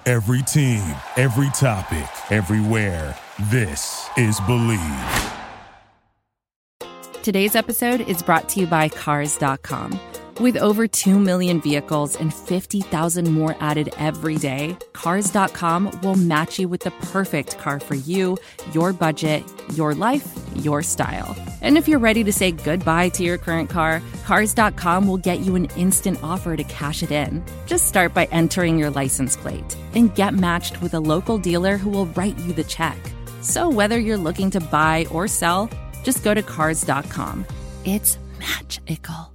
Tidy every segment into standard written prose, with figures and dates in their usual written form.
Every team, every topic, everywhere. This is Believe. Today's episode is brought to you by Cars.com. With over 2 million vehicles and 50,000 more added every day, Cars.com will match you with the perfect car for you, your budget, your life, your style. And if you're ready to say goodbye to your current car, Cars.com will get you an instant offer to cash it in. Just start by entering your license plate and get matched with a local dealer who will write you the check. So whether you're looking to buy or sell, just go to Cars.com. It's magical.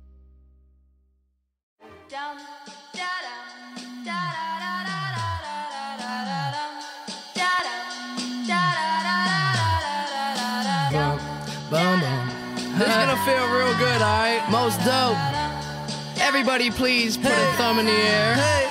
This is gonna feel real good, alright? Most dope. Everybody please put a thumb in the air. Hey.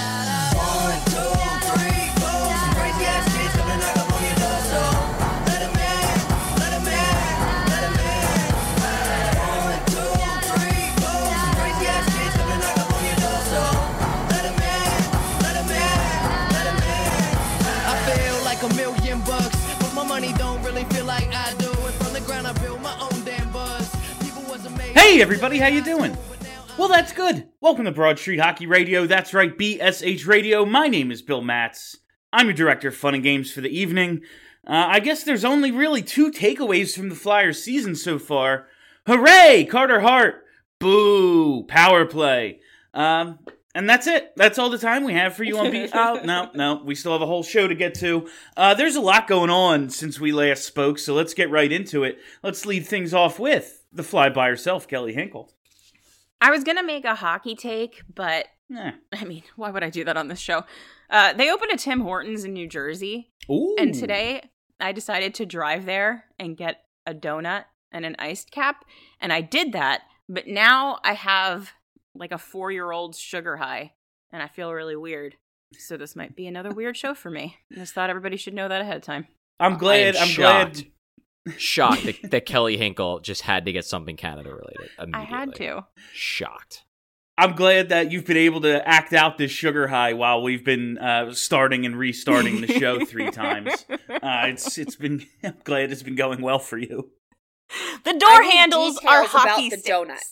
1, 2, 3, 4. Some crazy ass shit coming up on your door, so let 'em in, let 'em in, let 'em in. 1, 2, 3, 4. Some crazy ass shit coming up on your door, so let 'em in, let 'em in, let 'em in. I feel like $1 million, but my money don't really feel like I do. And from the ground I build my own damn buzz. Hey everybody, how you doing? Well, that's good. Welcome to Broad Street Hockey Radio. That's right, BSH Radio. My name is Bill Matz. I'm your director of fun and games for the evening. I guess there's only really 2 takeaways from the Flyers season so far. Hooray, Carter Hart. Boo, power play. And that's it. That's all the time we have for you on no, we still have a whole show to get to. There's a lot going on since we last spoke, so let's get right into it. Let's lead things off with the fly by herself, Kelly Hinkle. I was going to make a hockey take, but, I mean, why would I do that on this show? They opened a Tim Hortons in New Jersey, Ooh. And today I decided to drive there and get a donut and an iced cap, and I did that, but now I have, like, a 4-year-old's sugar high, and I feel really weird, so this might be another weird show for me. I just thought everybody should know that ahead of time. I'm glad. Shocked that Kelly Hinkle just had to get something Canada related immediately. I had to. Shocked. I'm glad that you've been able to act out this sugar high while we've been starting and restarting the show 3 times. It's been. I'm glad it's been going well for you. The door handles are hockey about the sticks.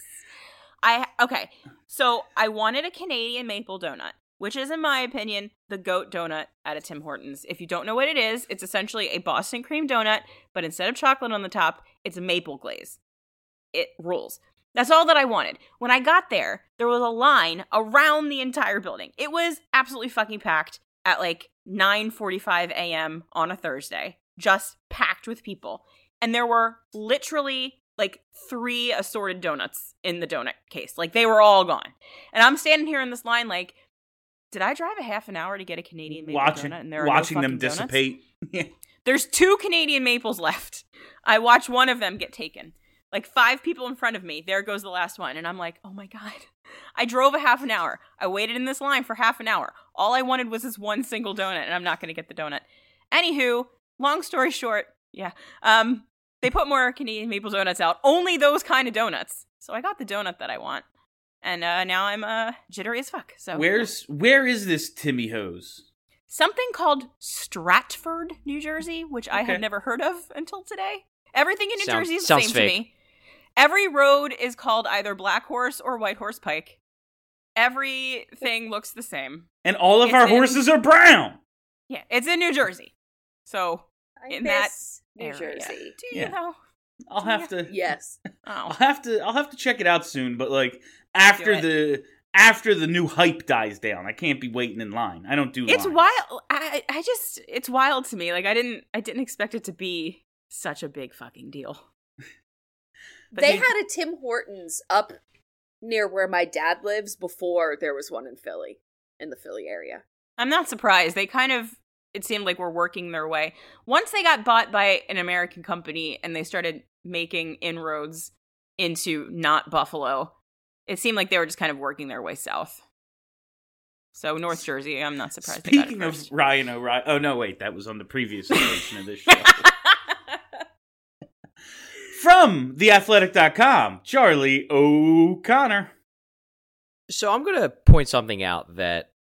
donut. Okay, so I wanted a Canadian maple donut, which is, in my opinion, the GOAT donut at a Tim Hortons. If you don't know what it is, it's essentially a Boston cream donut, but instead of chocolate on the top, it's a maple glaze. It rules. That's all that I wanted. When I got there, there was a line around the entire building. It was absolutely fucking packed at like 9:45 a.m. on a Thursday, just packed with people. And there were literally like 3 assorted donuts in the donut case. Like, they were all gone. And I'm standing here in this line like, did I drive a half an hour to get a Canadian maple donut? And there are watching no them donuts? dissipate. There's 2 Canadian maples left. I watched one of them get taken. Like 5 people in front of me. There goes the last one. And I'm like, oh my God. I drove a half an hour. I waited in this line for half an hour. All I wanted was this one single donut, and I'm not going to get the donut. Anywho, long story short, they put more Canadian maple donuts out. Only those kind of donuts. So I got the donut that I want. And now I'm jittery as fuck. So Where is this Timmy Hose? Something called Stratford, New Jersey, which I had never heard of until today. Everything in New Jersey is the same to me. Every road is called either Black Horse or White Horse Pike. Everything looks the same. And all of our horses are brown. Yeah, it's in New Jersey. So I miss New Jersey. Do you know? I'll have to. Yes. I'll have to check it out soon. But like after the new hype dies down, I can't be waiting in line. I don't do. It's lines. wild. It's wild to me. Like I didn't expect it to be such a big fucking deal. But they had a Tim Hortons up near where my dad lives before there was one in Philly, in the Philly area. I'm not surprised. They kind of, it seemed like were working their way. Once they got bought by an American company and they started making inroads into not Buffalo, it seemed like they were just kind of working their way south. So North Jersey, I'm not surprised. Speaking of Ryan O'Reilly, oh no, wait, that was on the previous iteration of this show. From theathletic.com, Charlie O'Connor. So I'm going to point something out that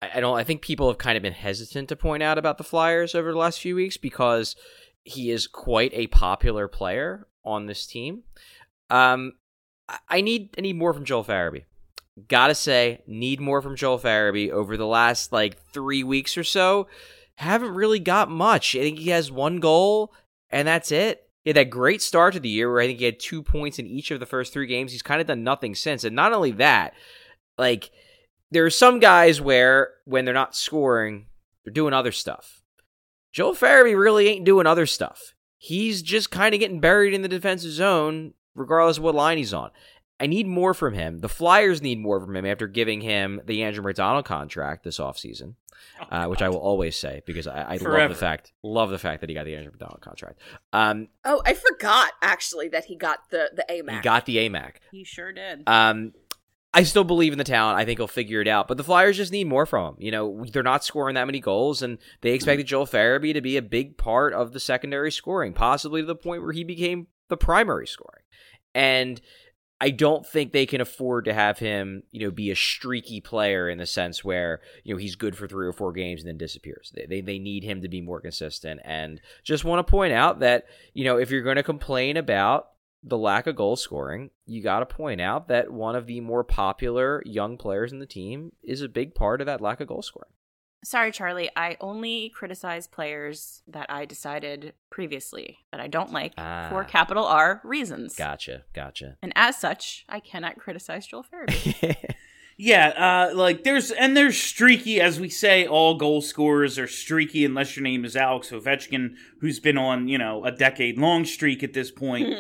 I think people have kind of been hesitant to point out about the Flyers over the last few weeks because he is quite a popular player on this team. I need more from Joel Farabee. Gotta say, need more from Joel Farabee over the last 3 weeks or so. Haven't really got much. I think he has 1 goal, and that's it. He had that great start to the year where I think he had 2 points in each of the first 3 games. He's kind of done nothing since. And not only that, there are some guys where when they're not scoring, they're doing other stuff. Joel Farabee really ain't doing other stuff. He's just kind of getting buried in the defensive zone regardless of what line he's on. I need more from him. The Flyers need more from him after giving him the Andrew McDonald contract this offseason, which I will always say because I love the fact that he got the Andrew McDonald contract. I forgot actually that he got the AMAC. He got the AMAC. He sure did. I still believe in the talent. I think he'll figure it out. But the Flyers just need more from him. They're not scoring that many goals, and they expected Joel Farabee to be a big part of the secondary scoring, possibly to the point where he became the primary scoring. And I don't think they can afford to have him, be a streaky player in the sense where, he's good for 3 or 4 games and then disappears. They need him to be more consistent. And just want to point out that, if you're going to complain about the lack of goal scoring, you got to point out that one of the more popular young players in the team is a big part of that lack of goal scoring. Sorry, Charlie. I only criticize players that I decided previously that I don't like for capital R reasons. Gotcha. And as such, I cannot criticize Joel Farabee. Yeah, there's streaky, as we say, all goal scorers are streaky unless your name is Alex Ovechkin, who's been on, a decade-long streak at this point.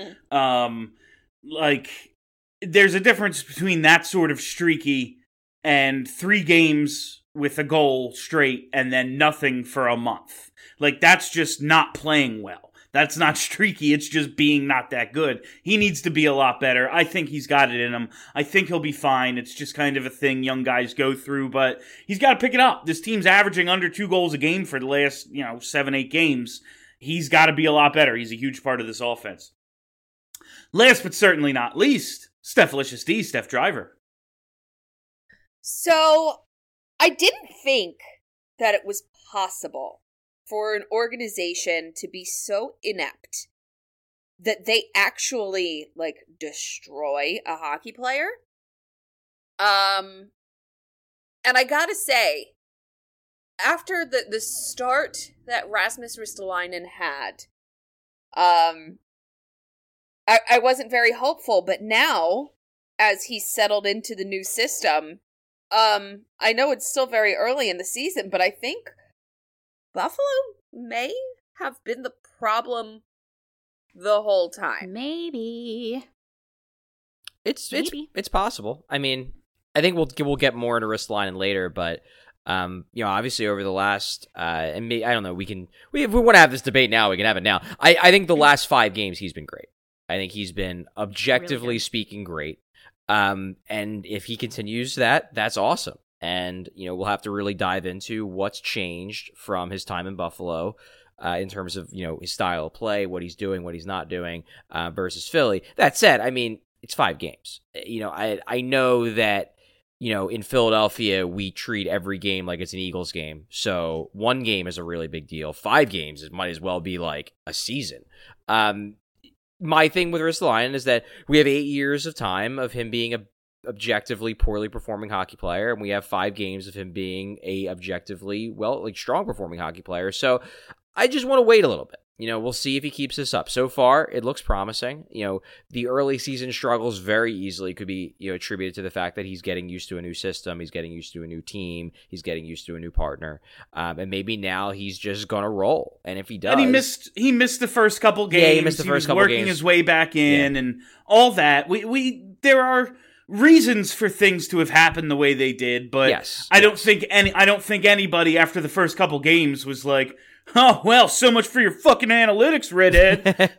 There's a difference between that sort of streaky and 3 games with a goal straight and then nothing for a month. That's just not playing well. That's not streaky. It's just being not that good. He needs to be a lot better. I think he's got it in him. I think he'll be fine. It's just kind of a thing young guys go through, but he's got to pick it up. This team's averaging under 2 goals a game for the last, 7-8 games. He's got to be a lot better. He's a huge part of this offense. Last but certainly not least, Stephalicious D, Steph Driver. So, I didn't think that it was possible for an organization to be so inept that they actually, destroy a hockey player. And I gotta say, after the start that Rasmus Ristolainen had, I wasn't very hopeful, but now, as he's settled into the new system, I know it's still very early in the season, but I think Buffalo may have been the problem the whole time. Maybe. It's possible. I mean, I think we'll get more into Ristolainen later, but obviously over the last and I don't know, if we want to have this debate now, we can have it now. I think the last 5 games he's been great. I think he's been objectively really speaking great. And if he continues that's awesome. And, we'll have to really dive into what's changed from his time in Buffalo in terms of, his style of play, what he's doing, what he's not doing versus Philly. That said, I mean, it's 5 games. I know that, in Philadelphia, we treat every game like it's an Eagles game. So 1 game is a really big deal. 5 games, it might as well be like a season. My thing with Ristolainen is that we have 8 years of time of him being a objectively poorly performing hockey player, and we have 5 games of him being a objectively strong performing hockey player. So I just want to wait a little bit. We'll see if he keeps this up. So far, it looks promising. The early season struggles very easily could be attributed to the fact that he's getting used to a new system, he's getting used to a new team, he's getting used to a new partner, and maybe now he's just gonna roll. And if he does, and he missed the first couple games. Yeah, he missed the first couple games. Working his way back in, and all that. There are reasons for things to have happened the way they did, but yes. I don't think anybody after the first couple games was like, oh, well, so much for your fucking analytics, redhead.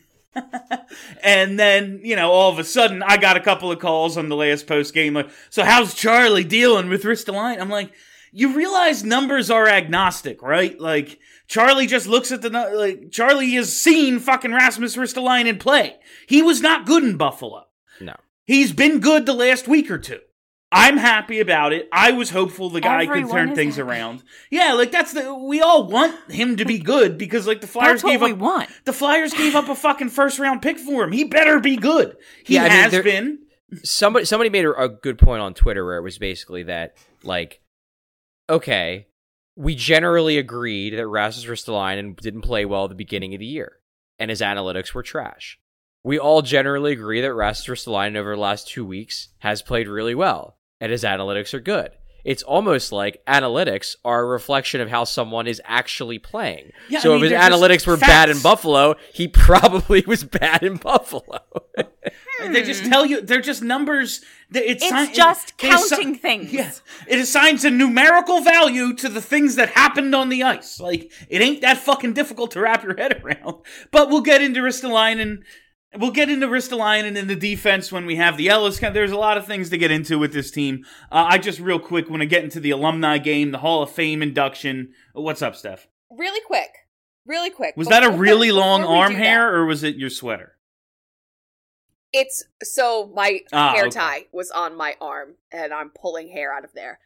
And then, all of a sudden, I got a couple of calls on the last post game, so how's Charlie dealing with Ristolainen? I'm like, you realize numbers are agnostic, right? Charlie just looks at Charlie has seen fucking Rasmus Ristolainen play. He was not good in Buffalo. No. He's been good the last week or two. I'm happy about it. I was hopeful the guy Everyone could turn is things happy. around. Yeah, like we all want him to be good because like the Flyers That's what we want. The Flyers gave up a fucking first round pick for him. He better be good. He Yeah, I mean, has been. Somebody made a good point on Twitter where it was basically that, like, okay, we generally agreed that Rasmus Ristolainen didn't play well at the beginning of the year, and his analytics were trash. We all generally agree that Rasmus Ristolainen over the last 2 weeks has played really well, and his analytics are good. It's almost like analytics are a reflection of how someone is actually playing. Yeah, so I mean, if his they're just analytics were bad in facts. Buffalo, he probably was bad in Buffalo. They just tell you they're just numbers. It's just counting things. Yeah, it assigns a numerical value to the things that happened on the ice. Like it ain't that fucking difficult to wrap your head around. But we'll get into Ristolainen. We'll get into Ristolainen in the defense when we have the Ellis. There's a lot of things to get into with this team. I just real quick want to get into the alumni game, the Hall of Fame induction. What's up, Steph? Really quick. Was that a really Before long we arm do hair, that, or was it your sweater? It's so my hair okay. tie was on my arm, and I'm pulling hair out of there.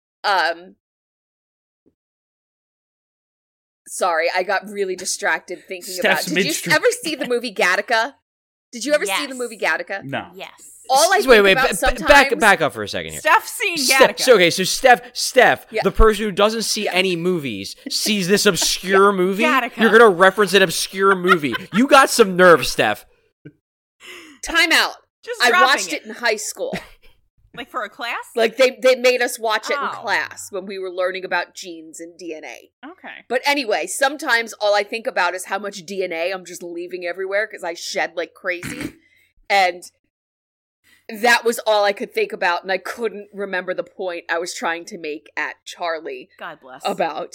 Sorry, I got really distracted thinking Steph's about. Did midstream. you ever see the movie Gattaca? Did you ever see the Yes. movie Gattaca? No. Yes. All I Wait, think wait, about sometimes. back up for a second here. Steph's seen Steph, Gattaca. so, okay, so Steph, Yeah. the person who doesn't see any movies, sees this obscure movie. Gattaca. You're gonna reference an obscure movie. You got some nerve, Steph. Time out. Just I dropping watched it in high school. Like for a class? Like they made us watch it in Oh. class when we were learning about genes and DNA. Okay. But anyway, sometimes all I think about is how much DNA I'm just leaving everywhere because I shed like crazy. And that was all I could think about, and I couldn't remember the point I was trying to make at Charlie God bless. about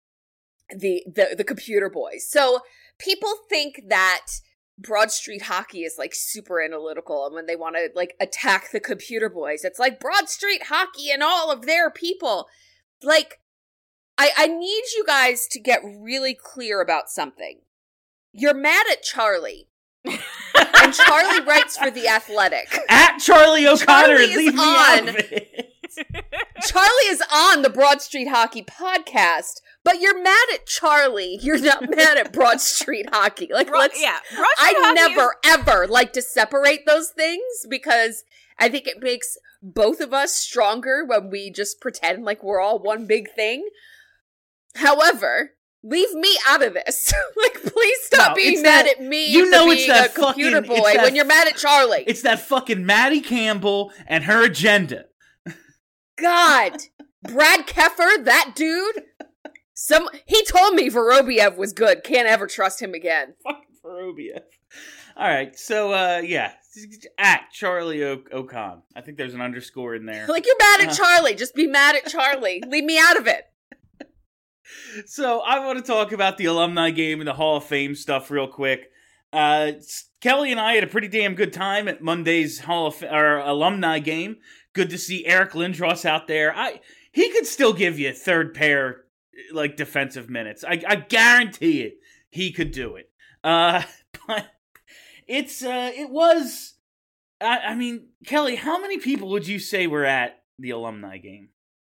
the computer boys. So people think that Broad Street Hockey is like super analytical, and when they want to like attack the computer boys, it's like Broad Street Hockey and all of their people. Like, I need you guys to get really clear about something. You're mad at Charlie. And Charlie writes for The Athletic. At Charlie O'Connor, Charlie is leave me out on. of it. Charlie is on the Broad Street Hockey podcast, but you're mad at Charlie. You're not mad at Broad Street Hockey. Like, Broad let's. Street I Hockey never ever like to separate those things because I think it makes both of us stronger when we just pretend like we're all one big thing. However, leave me out of this. Like, please stop No, being it's mad that- at me you for know being it's that a computer fucking- it's boy that- when you're mad at Charlie. It's that fucking Maddie Campbell and her agenda. God, Brad Keffer, that dude. He told me Vorobiev was good. Can't ever trust him again. Fucking Vorobiev. All right, so yeah, at Charlie O'Con. I think there's an underscore in there. Like, you're mad at Charlie. Just be mad at Charlie. Leave me out of it. So I want to talk about the alumni game and the Hall of Fame stuff real quick. Kelly and I had a pretty damn good time at Monday's alumni game. Good to see Eric Lindros out there. He could still give you third pair like defensive minutes. I guarantee it. He could do it. But it was. I mean, Kelly, how many people would you say were at the alumni game?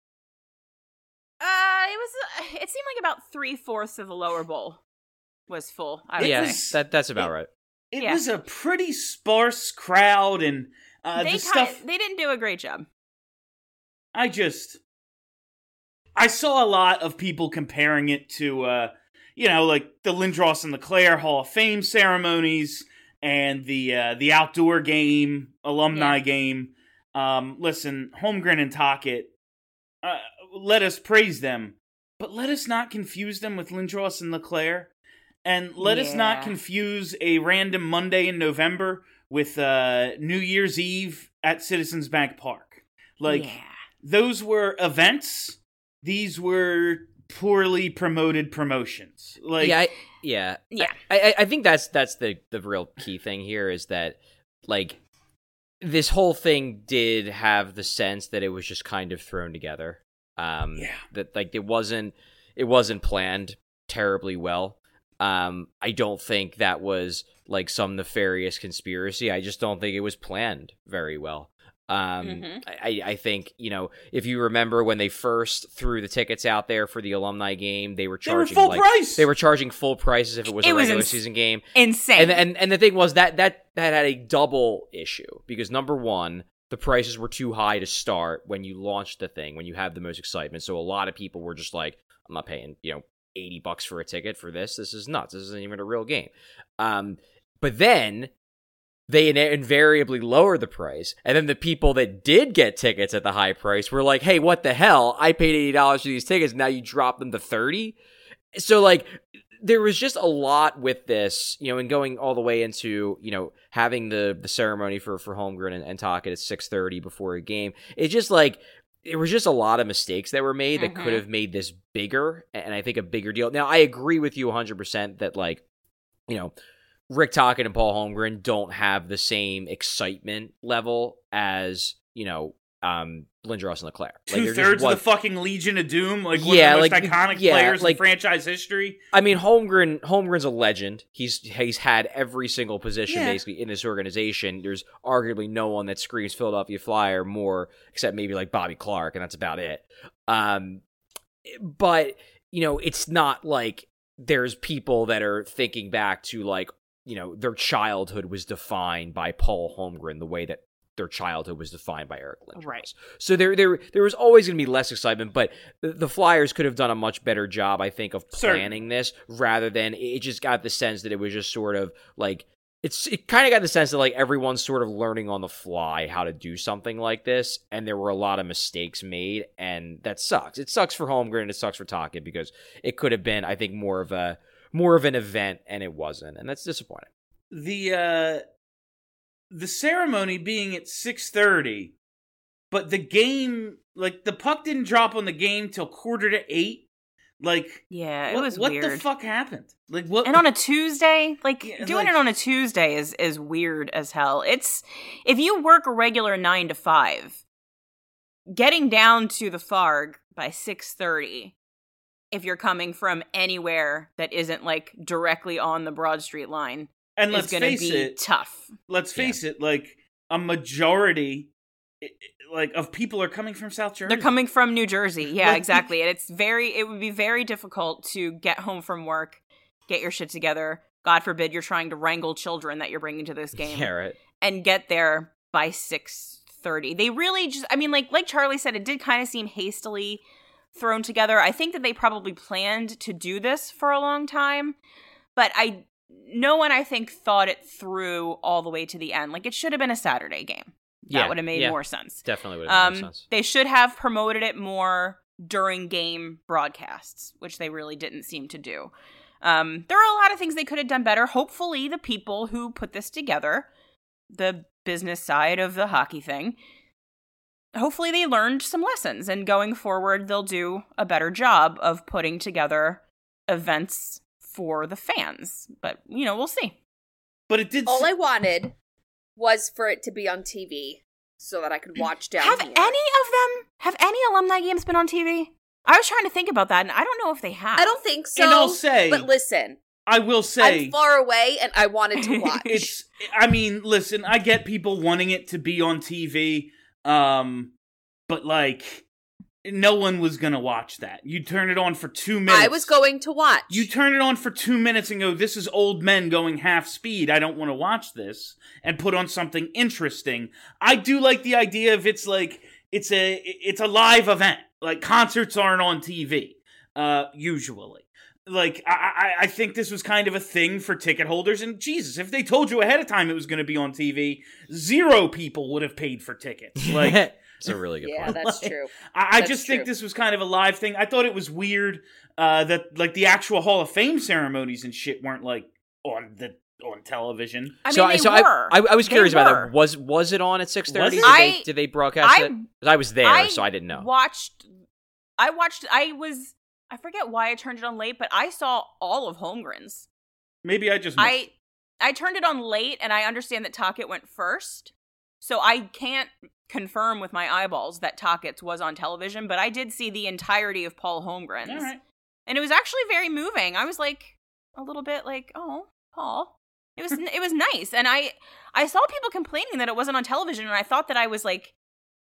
It seemed like about 3/4 of the lower bowl was full. I would Yeah, say. that's about right. It Yeah. was a pretty sparse crowd, and the stuff. They didn't do a great job. I saw a lot of people comparing it to, like the Lindros and LeClaire Hall of Fame ceremonies and the outdoor game, alumni game. Listen, Holmgren and Tocchet, let us praise them, but let us not confuse them with Lindros and LeClaire. And let us not confuse a random Monday in November with New Year's Eve at Citizens Bank Park. Those were events. These were poorly promoted promotions. I think that's the real key thing here is that, like, this whole thing did have the sense that it was just kind of thrown together. That, like, it wasn't planned terribly well. I don't think that was like some nefarious conspiracy. I just don't think it was planned very well. I think, if you remember when they first threw the tickets out there for the alumni game, they were charging full price. They were charging full price as if it was a regular season game. Insane. And the thing was that had a double issue because number one, the prices were too high to start when you launched the thing, when you have the most excitement. So a lot of people were just like, I'm not paying, $80 for a ticket for this. This is nuts. This isn't even a real game. But then they invariably lowered the price. And then the people that did get tickets at the high price were like, hey, what the hell? I paid $80 for these tickets. Now you drop them to $30. So there was just a lot with this, and going all the way into, having the ceremony for Holmgren and Tocchet at 6:30 before a game. It's just there was just a lot of mistakes that were made that could have made this bigger, and I think a bigger deal. Now, I agree with you 100% that, Rick Tocchet and Paul Holmgren don't have the same excitement level as, Lindros and Leclerc. 2/3 of the fucking Legion of Doom, one of the most iconic players in franchise history. I mean, Holmgren's a legend. He's had every single position basically in this organization. There's arguably no one that screams Philadelphia Flyer more, except maybe Bobby Clark, and that's about it. But it's not like there's people that are thinking back to their childhood was defined by Paul Holmgren the way that their childhood was defined by Eric Lindros. Right. So there was always going to be less excitement, but the Flyers could have done a much better job, I think, of planning this rather than it just got the sense that it was just sort of it kind of got the sense that everyone's sort of learning on the fly how to do something like this, and there were a lot of mistakes made, and that sucks. It sucks for Holmgren and it sucks for Tocchet because it could have been, I think, more of an event, and it wasn't, and that's disappointing. The ceremony being at 6:30, but the game, the puck didn't drop on the game till 7:45. It was weird. What the fuck happened? What? And on a Tuesday, doing it on a Tuesday is weird as hell. It's if you work a regular 9 to 5, getting down to the Farg by 6:30. If you're coming from anywhere that isn't directly on the Broad Street line. And let's face it, tough. Let's face it, a majority, of people are coming from South Jersey. They're coming from New Jersey. Yeah, exactly. And it would be very difficult to get home from work, get your shit together. God forbid you're trying to wrangle children that you're bringing to this game. Yeah, right. And get there by 6:30. They really just, like Charlie said, it did kind of seem hastily thrown together. I think that they probably planned to do this for a long time, but no one, I think, thought it through all the way to the end. It should have been a Saturday game. That would have made more sense. Definitely would have made more sense. They should have promoted it more during game broadcasts, which they really didn't seem to do. There are a lot of things they could have done better. Hopefully, the people who put this together, the business side of the hockey thing, hopefully they learned some lessons. And going forward, they'll do a better job of putting together events for the fans, but we'll see. But it did. All I wanted was for it to be on TV so that I could watch down Have here. any alumni games been on TV? I was trying to think about that, and I don't know if they have. I don't think so. And I'll say, but listen, I will say, I'm far away, and I wanted to watch. Listen, I get people wanting it to be on TV, but no one was going to watch that. You turn it on for 2 minutes. I was going to watch. You turn it on for 2 minutes and go, this is old men going half speed. I don't want to watch this. And put on something interesting. I do like the idea of it's a live event. Concerts aren't on TV, usually. I think this was kind of a thing for ticket holders. And Jesus, if they told you ahead of time it was going to be on TV, 0 people would have paid for tickets. It's a really good point. Yeah, that's true. I just think this was kind of a live thing. I thought it was weird that the actual Hall of Fame ceremonies and shit weren't on television. They were. I was curious about that. Was it on at 6:30? Did they broadcast it? I was there, so I didn't know. I forget why I turned it on late, but I saw all of Holmgren's. Maybe I just missed. I turned it on late, and I understand that Tocchet went first, so I can't confirm with my eyeballs that Tocchet's was on television, but I did see the entirety of Paul Holmgren's. All right. And it was actually very moving. I was a little bit oh, Paul. It was nice. And I saw people complaining that it wasn't on television, and I thought that I was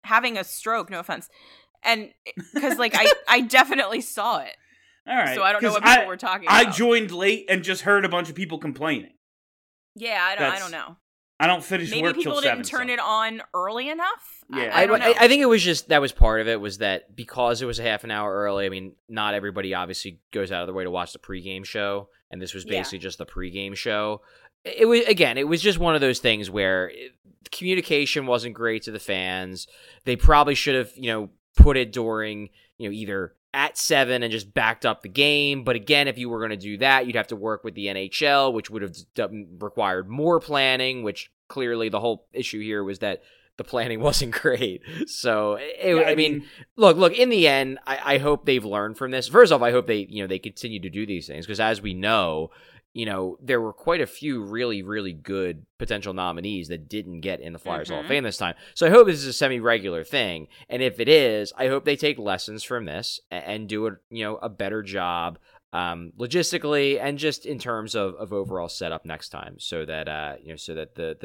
having a stroke. No offense, and because like I definitely saw it. All right, so I don't know what people were talking about. I joined late and just heard a bunch of people complaining. Yeah, I don't know. I don't finish Maybe work till 7. Maybe people didn't turn it on early enough. Yeah, I don't know. I think it was just that was part of it was that because it was a half an hour early. I mean, not everybody obviously goes out of their way to watch the pregame show, and this was basically just the pregame show. It was just one of those things where communication wasn't great to the fans. They probably should have, put it during, either at 7 and just backed up the game. But again, if you were going to do that, you'd have to work with the NHL, which would have required more planning, which clearly the whole issue here was that the planning wasn't great. So, I mean, look, in the end, I hope they've learned from this. First off, I hope they continue to do these things because as we know, there were quite a few really, really good potential nominees that didn't get in the Flyers Hall of Fame this time. So I hope this is a semi-regular thing. And if it is, I hope they take lessons from this and do a better job logistically and just in terms of overall setup next time so that, the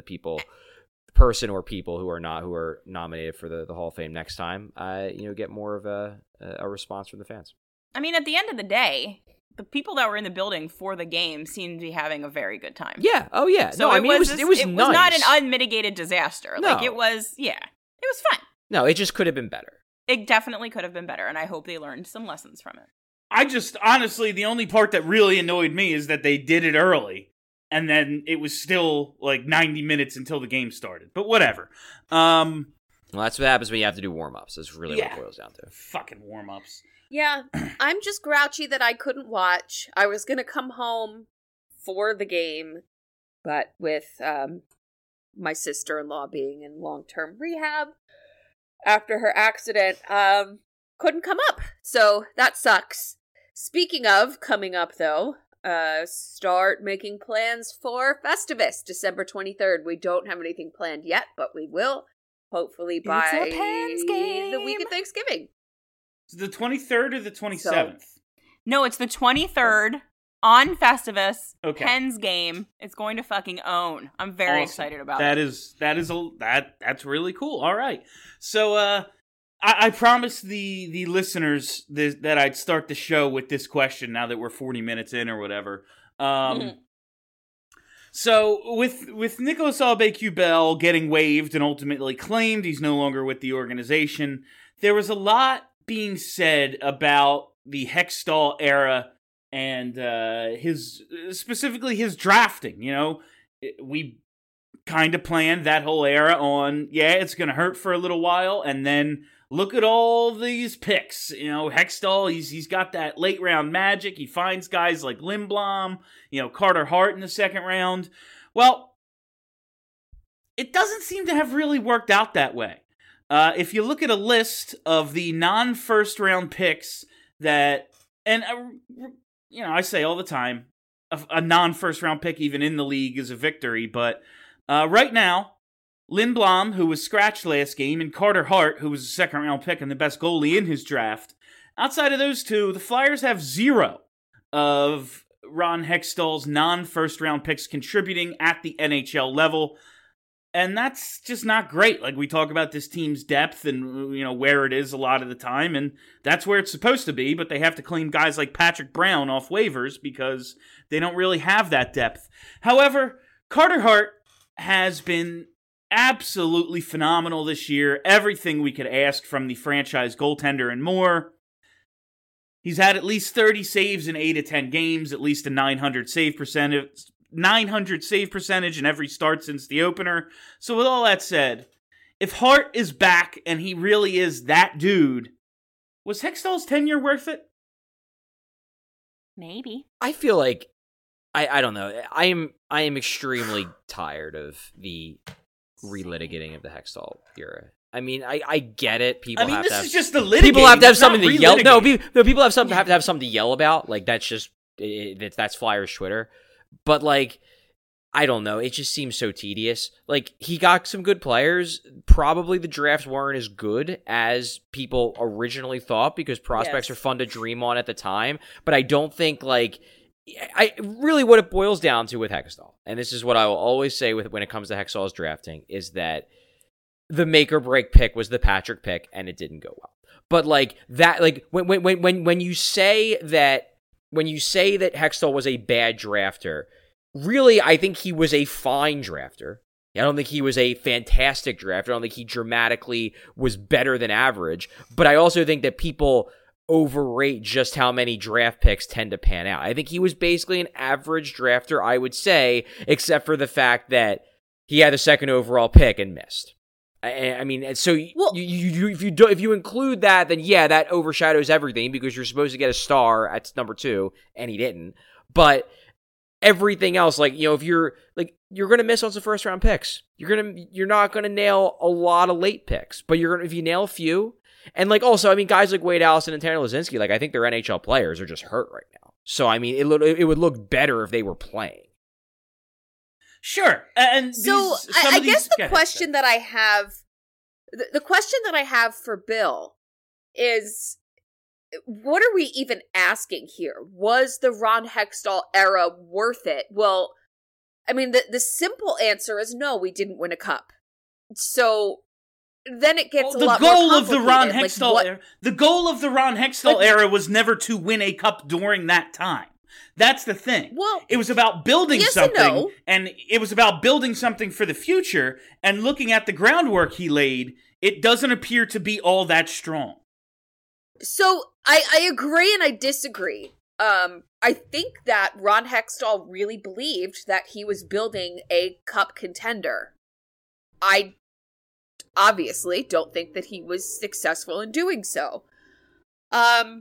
person or people who are nominated for the Hall of Fame next time, get more of a response from the fans. I mean, at the end of the day, the people that were in the building for the game seemed to be having a very good time. Yeah. Oh, yeah. So it was nice. Not an unmitigated disaster. No. Like, it was fun. No, it just could have been better. It definitely could have been better, and I hope they learned some lessons from it. I just, honestly, the only part that really annoyed me is that they did it early, and then it was still, 90 minutes until the game started. But whatever. Well, that's what happens when you have to do warm-ups. That's really what it boils down to. Fucking warm-ups. Yeah, I'm just grouchy that I couldn't watch. I was going to come home for the game, but with my sister-in-law being in long-term rehab after her accident, couldn't come up. So that sucks. Speaking of coming up, though, start making plans for Festivus, December 23rd. We don't have anything planned yet, but we will, hopefully by the week of Thanksgiving. The 23rd or the 27th? No, it's the 23rd on Festivus. Okay. Pens game. It's going to fucking own. I'm very excited about it. That's really cool. All right. So I promised the listeners that I'd start the show with this question now that we're 40 minutes in or whatever. So with Nicolas Aube-Kubel getting waived and ultimately claimed he's no longer with the organization, there was a lot being said about the Hextall era and specifically his drafting. We kind of planned that whole era on, it's going to hurt for a little while, and then look at all these picks. Hextall, he's got that late round magic. He finds guys like Lindblom, Carter Hart in the second round. Well, it doesn't seem to have really worked out that way. If you look at a list of the non-first round picks that, and I say all the time, a non-first round pick even in the league is a victory, but right now, Lindblom, who was scratched last game, and Carter Hart, who was a second round pick and the best goalie in his draft, outside of those two, the Flyers have 0 of Ron Hextall's non-first round picks contributing at the NHL level. And that's just not great. Like, we talk about this team's depth and, where it is a lot of the time, and that's where it's supposed to be, but they have to claim guys like Patrick Brown off waivers because they don't really have that depth. However, Carter Hart has been absolutely phenomenal this year. Everything we could ask from the franchise goaltender and more. He's had at least 30 saves in 8 of 10 games, at least a 900 save percentage in every start since the opener. So with all that said, if Hart is back and he really is that dude, was Hextall's tenure worth it? Maybe. I feel like I don't know. I am extremely tired of the relitigating of the Hextall era. I mean, I get it. This is just the litigating. People have to have something to yell. No, people have to have something to yell about. Like, that's just that's Flyers Twitter. But, I don't know. It just seems so tedious. He got some good players. Probably the drafts weren't as good as people originally thought because prospects are fun to dream on at the time. But I don't think, I really what it boils down to with Hextall, and this is what I will always say when it comes to Hextall's drafting, is that the make or break pick was the Patrick pick, and it didn't go well. But like that, like when you say that Hextall was a bad drafter, really, I think he was a fine drafter. I don't think he was a fantastic drafter. I don't think he dramatically was better than average. But I also think that people overrate just how many draft picks tend to pan out. I think he was basically an average drafter, I would say, except for the fact that he had the second overall pick and missed. I mean, so if you include that, then yeah, that overshadows everything because you're supposed to get a star at number 2, and he didn't. But everything else, like, you know, if you're going to miss on some first round picks. You're not going to nail a lot of late picks, but if you nail a few, and like also, I mean, guys like Wade Allison and Tanner Laczynski, like I think they're NHL players are just hurt right now. So I mean, it would look better if they were playing. Sure, and so I guess the question that I have, the question that I have for Bill is, what are we even asking here? Was the Ron Hextall era worth it? Well, I mean, the simple answer is no, we didn't win a cup. So then it gets a lot more complicated. The goal of the Ron Hextall era was never to win a cup during that time. That's the thing. Well, it was about building something, and it was about building something for the future, and looking at the groundwork he laid, it doesn't appear to be all that strong. So I agree and I disagree. I think that Ron Hextall really believed that he was building a cup contender. I obviously don't think that he was successful in doing so. But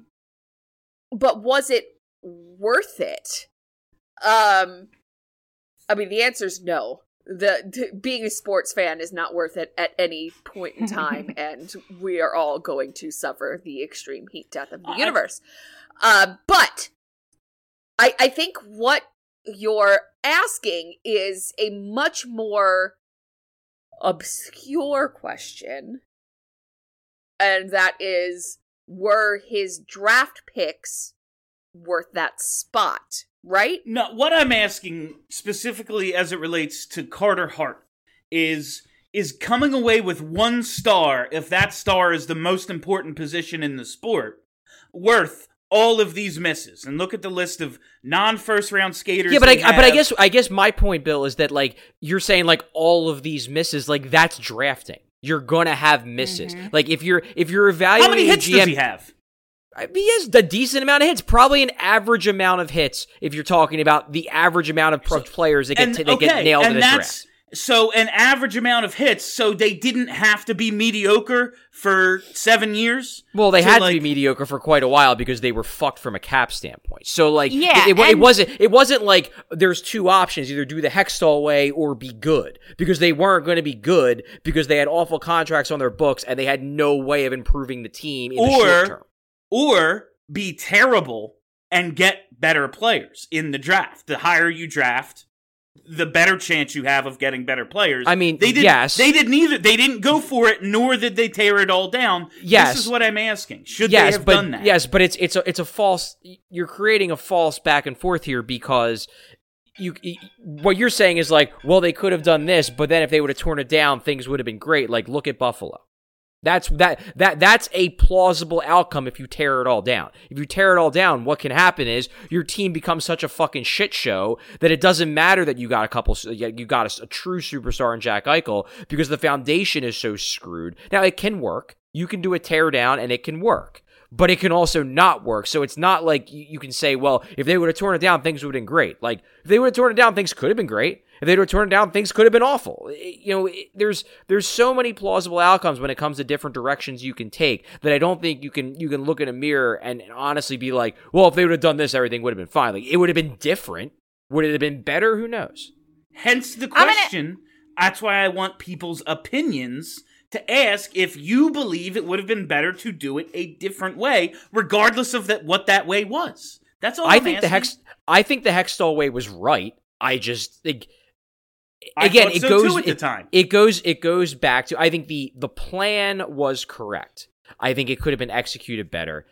was it worth it? I mean, the answer is no. Being a sports fan is not worth it at any point in time, and we are all going to suffer the extreme heat death of the universe. But I think what you're asking is a much more obscure question, and that is, were his draft picks worth that spot, right? No, what I'm asking specifically as it relates to Carter Hart is coming away with one star, if that star is the most important position in the sport, worth all of these misses. And look at the list of non-first round skaters. Yeah, but I guess my point, Bill, is that like you're saying like all of these misses, like that's drafting. You're gonna have misses. Mm-hmm. Like if you're evaluating, how many hits does he have? He has a decent amount of hits, probably an average amount of hits if you're talking about the average amount of players that get nailed in a draft. So an average amount of hits, so they didn't have to be mediocre for 7 years? Well, they had to be mediocre for quite a while because they were fucked from a cap standpoint. So like, it wasn't like there's two options, either do the Hextall way or be good, because they weren't going to be good because they had awful contracts on their books and they had no way of improving the team in the short term. Or be terrible and get better players in the draft. The higher you draft, the better chance you have of getting better players. I mean, yes. They didn't either. They didn't go for it, nor did they tear it all down. Yes. This is what I'm asking. Should they have done that? Yes, but it's a false. You're creating a false back and forth here because what you're saying is like, well, they could have done this, but then if they would have torn it down, things would have been great. Like, look at Buffalo. That's a plausible outcome if you tear it all down. If you tear it all down, what can happen is your team becomes such a fucking shit show that it doesn't matter that you got a true superstar in Jack Eichel because the foundation is so screwed. Now, it can work. You can do a tear down and it can work. But it can also not work. So it's not like you can say, well, if they would have torn it down, things would have been great. Like, if they would have torn it down, things could have been great. If they would have torn it down, things could have been awful. There's so many plausible outcomes when it comes to different directions you can take that I don't think you can look in a mirror and honestly be like, well, if they would have done this, everything would have been fine. Like, it would have been different. Would it have been better? Who knows? Hence the question. That's why I want people's opinions to ask if you believe it would have been better to do it a different way, regardless of what that way was. That's all I think asking. I think the Hextall way was right. I just think, again, it goes at the time. It goes back to, I think the plan was correct. I think it could have been executed better.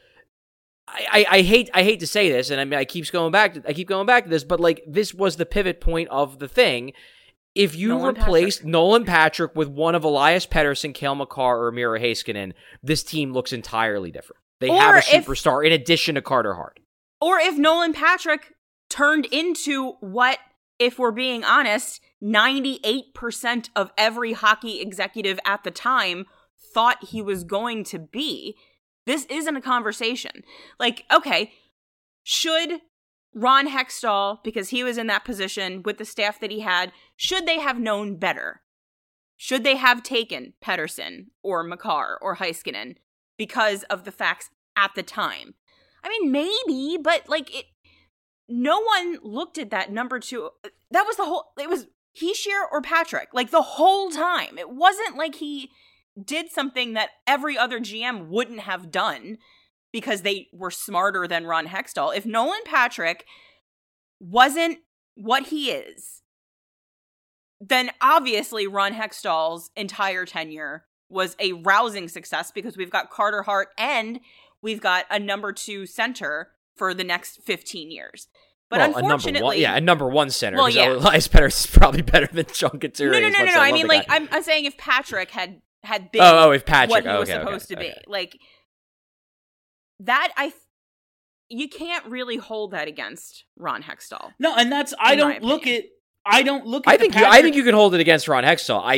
I hate to say this, and I mean I keep going back to this, but like this was the pivot point of the thing. if you replace Nolan Patrick with one of Elias Pettersson, Cale Makar, or Miro Heiskanen, this team looks entirely different. They have a superstar in addition to Carter Hart. Or if Nolan Patrick turned into what, if we're being honest, 98% of every hockey executive at the time thought he was going to be, this isn't a conversation. Like, okay, should Ron Hextall, because he was in that position with the staff that he had, should they have known better? Should they have taken Pettersson or Makar or Heiskanen because of the facts at the time? I mean, maybe, but no one looked at that number 2. That was it was Hischier or Patrick, like the whole time. It wasn't like he did something that every other GM wouldn't have done because they were smarter than Ron Hextall. If Nolan Patrick wasn't what he is, then obviously Ron Hextall's entire tenure was a rousing success because we've got Carter Hart and we've got a number 2 center for the next 15 years. But unfortunately... a number 1 center. Well, yeah. Elias Pettersson is probably better than John Couturier. No. I mean, I'm saying if Patrick had been if Patrick, what he was supposed to be. Like, that, you can't really hold that against Ron Hextall. No, and that's, I don't look at I think you can hold it against Ron Hextall. I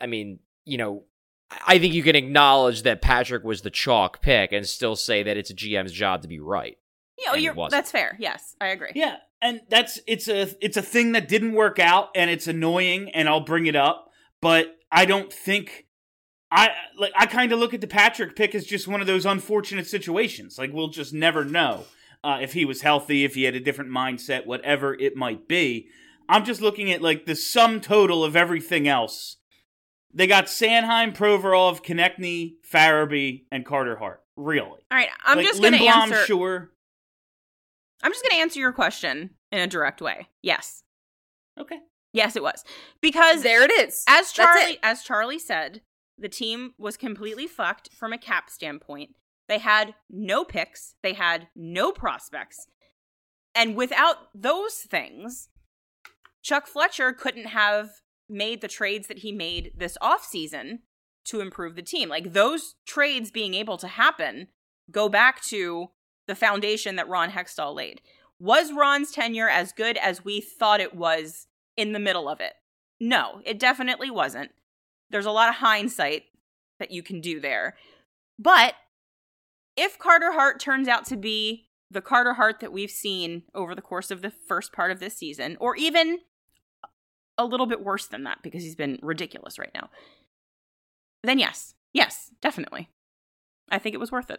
think you can acknowledge that Patrick was the chalk pick and still say that it's a GM's job to be right. Yeah, that's fair. Yes, I agree. Yeah, and it's a thing that didn't work out, and it's annoying, and I'll bring it up. But I don't think I kind of look at the Patrick pick as just one of those unfortunate situations. Like, we'll just never know if he was healthy, if he had a different mindset, whatever it might be. I'm just looking at the sum total of everything else. They got Sanheim, Provorov, Konechny, Farabee, and Carter Hart. Really? All right, I'm just going to answer. Sure. I'm just going to answer your question in a direct way. Yes. Okay. Yes, it was. Because there it is. As Charlie said, the team was completely fucked from a cap standpoint. They had no picks. They had no prospects. And without those things, Chuck Fletcher couldn't have made the trades that he made this offseason to improve the team. Like, those trades being able to happen go back to the foundation that Ron Hextall laid. Was Ron's tenure as good as we thought it was in the middle of it? No, it definitely wasn't. There's a lot of hindsight that you can do there. But if Carter Hart turns out to be the Carter Hart that we've seen over the course of the first part of this season, or even a little bit worse than that because he's been ridiculous right now, then yes, definitely. I think it was worth it.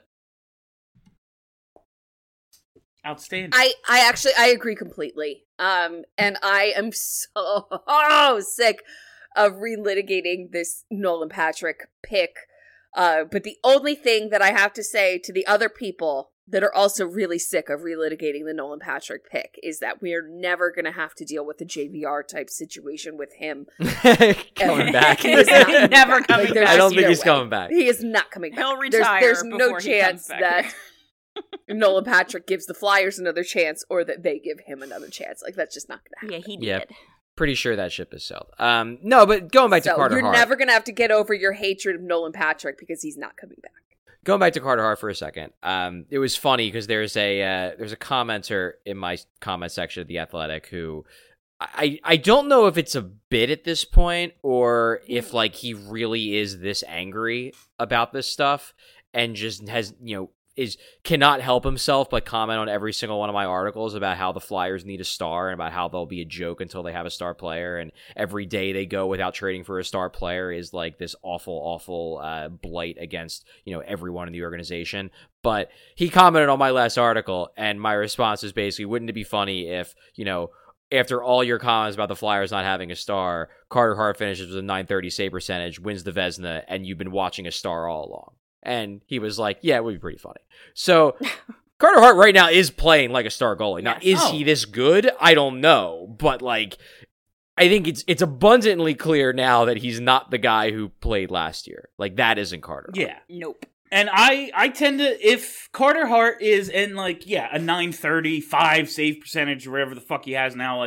Outstanding. I agree completely. And I am so sick of relitigating this Nolan Patrick pick. But the only thing that I have to say to the other people that are also really sick of relitigating the Nolan Patrick pick is that we are never going to have to deal with a JVR type situation with him coming back. He is never coming back. I don't think he's coming back. He is not coming back. He'll retire. There's no chance that Nolan Patrick gives the Flyers another chance or that they give him another chance. Like, that's just not going to happen. Yeah, he did. Yep. Pretty sure that ship has sailed. No, but going back to Carter Hart. You're never going to have to get over your hatred of Nolan Patrick because he's not coming back. Going back to Carter Hart for a second. It was funny because there's a commenter in my comment section of The Athletic who I don't know if it's a bit at this point or if he really is this angry about this stuff and just has, cannot help himself but comment on every single one of my articles about how the Flyers need a star and about how they'll be a joke until they have a star player, and every day they go without trading for a star player is this awful blight against everyone in the organization. But he commented on my last article, and my response is basically, wouldn't it be funny if after all your comments about the Flyers not having a star, Carter Hart finishes with a .930 save percentage, wins the Vezina, and you've been watching a star all along? And he was like, yeah, it would be pretty funny. So Carter Hart right now is playing like a star goalie. Now, is he this good? I don't know. But I think it's abundantly clear now that he's not the guy who played last year. That isn't Carter Hart. Yeah. Nope. And I tend to, if Carter Hart is in a 935 save percentage or whatever the fuck he has now,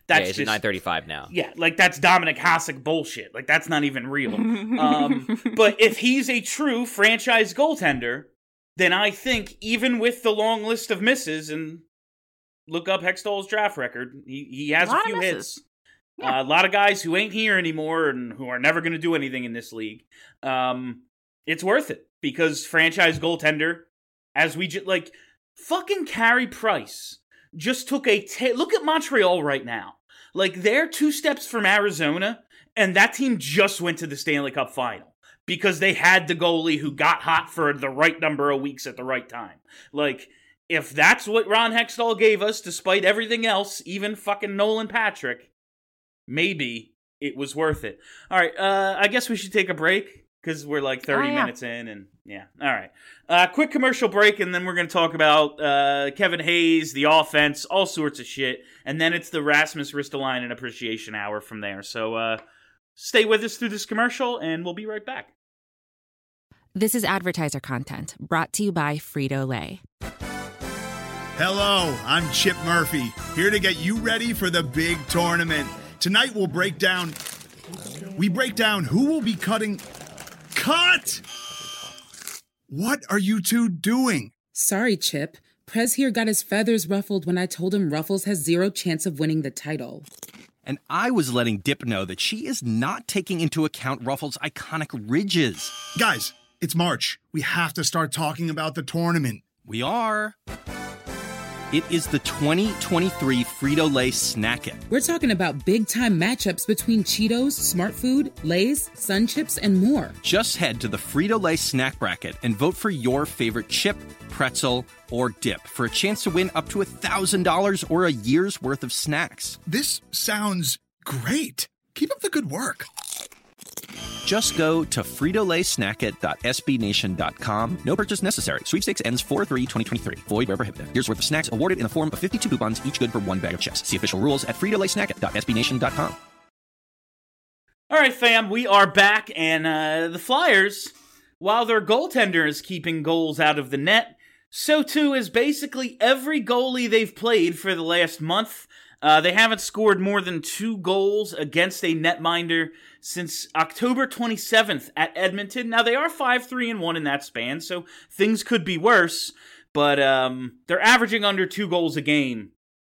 That's it's just 9:35 now. Yeah, like that's Dominic Hasek bullshit. Like that's not even real. But if he's a true franchise goaltender, then I think even with the long list of misses, and look up Hextall's draft record, he has a few hits. Yeah. A lot of guys who ain't here anymore and who are never going to do anything in this league. It's worth it because franchise goaltender, as we like fucking Carey Price just took look at Montreal right now. Like they're 2 steps from Arizona, and that team just went to the Stanley Cup final because they had the goalie who got hot for the right number of weeks at the right time. Like if that's what Ron Hextall gave us, despite everything else, even fucking Nolan Patrick, maybe it was worth it. All right, I guess we should take a break because we're like 30 minutes in, and yeah. All right, quick commercial break, and then we're going to talk about Kevin Hayes, the offense, all sorts of shit, and then it's the Rasmus Ristolainen Appreciation Hour from there. So stay with us through this commercial, and we'll be right back. This is advertiser content brought to you by Frito-Lay. Hello, I'm Chip Murphy, here to get you ready for the big tournament. Tonight we'll break down who will be cutting... Cut! What are you two doing? Sorry, Chip. Prez here got his feathers ruffled when I told him Ruffles has 0 chance of winning the title. And I was letting Dip know that she is not taking into account Ruffles' iconic ridges. Guys, it's March. We have to start talking about the tournament. We are. It is the 2023 Frito-Lay Snack It. We're talking about big-time matchups between Cheetos, Smart Food, Lay's, Sun Chips, and more. Just head to the Frito-Lay Snack Bracket and vote for your favorite chip, pretzel, or dip for a chance to win up to $1,000 or a year's worth of snacks. This sounds great. Keep up the good work. Just go to fritolaysnackit.sbnation.com. No purchase necessary. Sweepstakes ends 4/3/2023. Void where prohibited. Year's worth of snacks awarded in the form of 52 coupons, each good for 1 bag of chips. See official rules at fritolaysnackit.sbnation.com. All right, fam, we are back, and the Flyers, while their goaltender is keeping goals out of the net, so too is basically every goalie they've played for the last month. They haven't scored more than 2 goals against a netminder since October 27th at Edmonton. Now, they are 5-3-1 in that span, so things could be worse, but they're averaging under 2 goals a game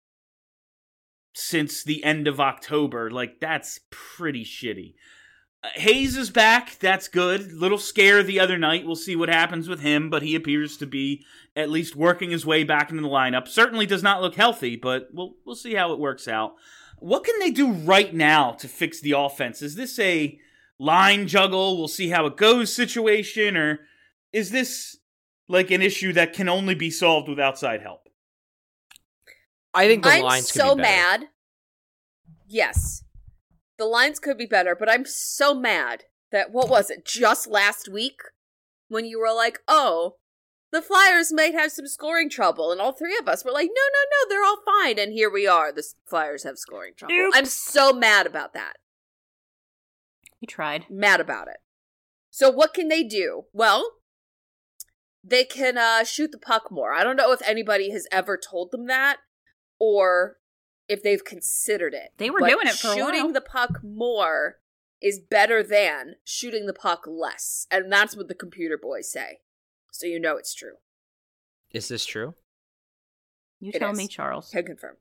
since the end of October. Like, that's pretty shitty. Hayes is back. That's good. Little scare the other night. We'll see what happens with him, but he appears to be at least working his way back into the lineup. Certainly does not look healthy, but we'll see how it works out. What can they do right now to fix the offense? Is this a line juggle, we'll see how it goes situation, or is this like an issue that can only be solved with outside help? I think the lines could be better. I'm so mad. Yes. The lines could be better, but I'm so mad that, what was it, just last week? When you were like, oh, the Flyers might have some scoring trouble, and all 3 of us were like, no, they're all fine, and here we are, the Flyers have scoring trouble. Oops. I'm so mad about that. You tried. Mad about it. So what can they do? Well, they can shoot the puck more. I don't know if anybody has ever told them that, or if they've considered it. They were doing it for a while. Shooting the puck more is better than shooting the puck less. And that's what the computer boys say. So you know it's true. Is this true? You tell me, Charles. Can confirm.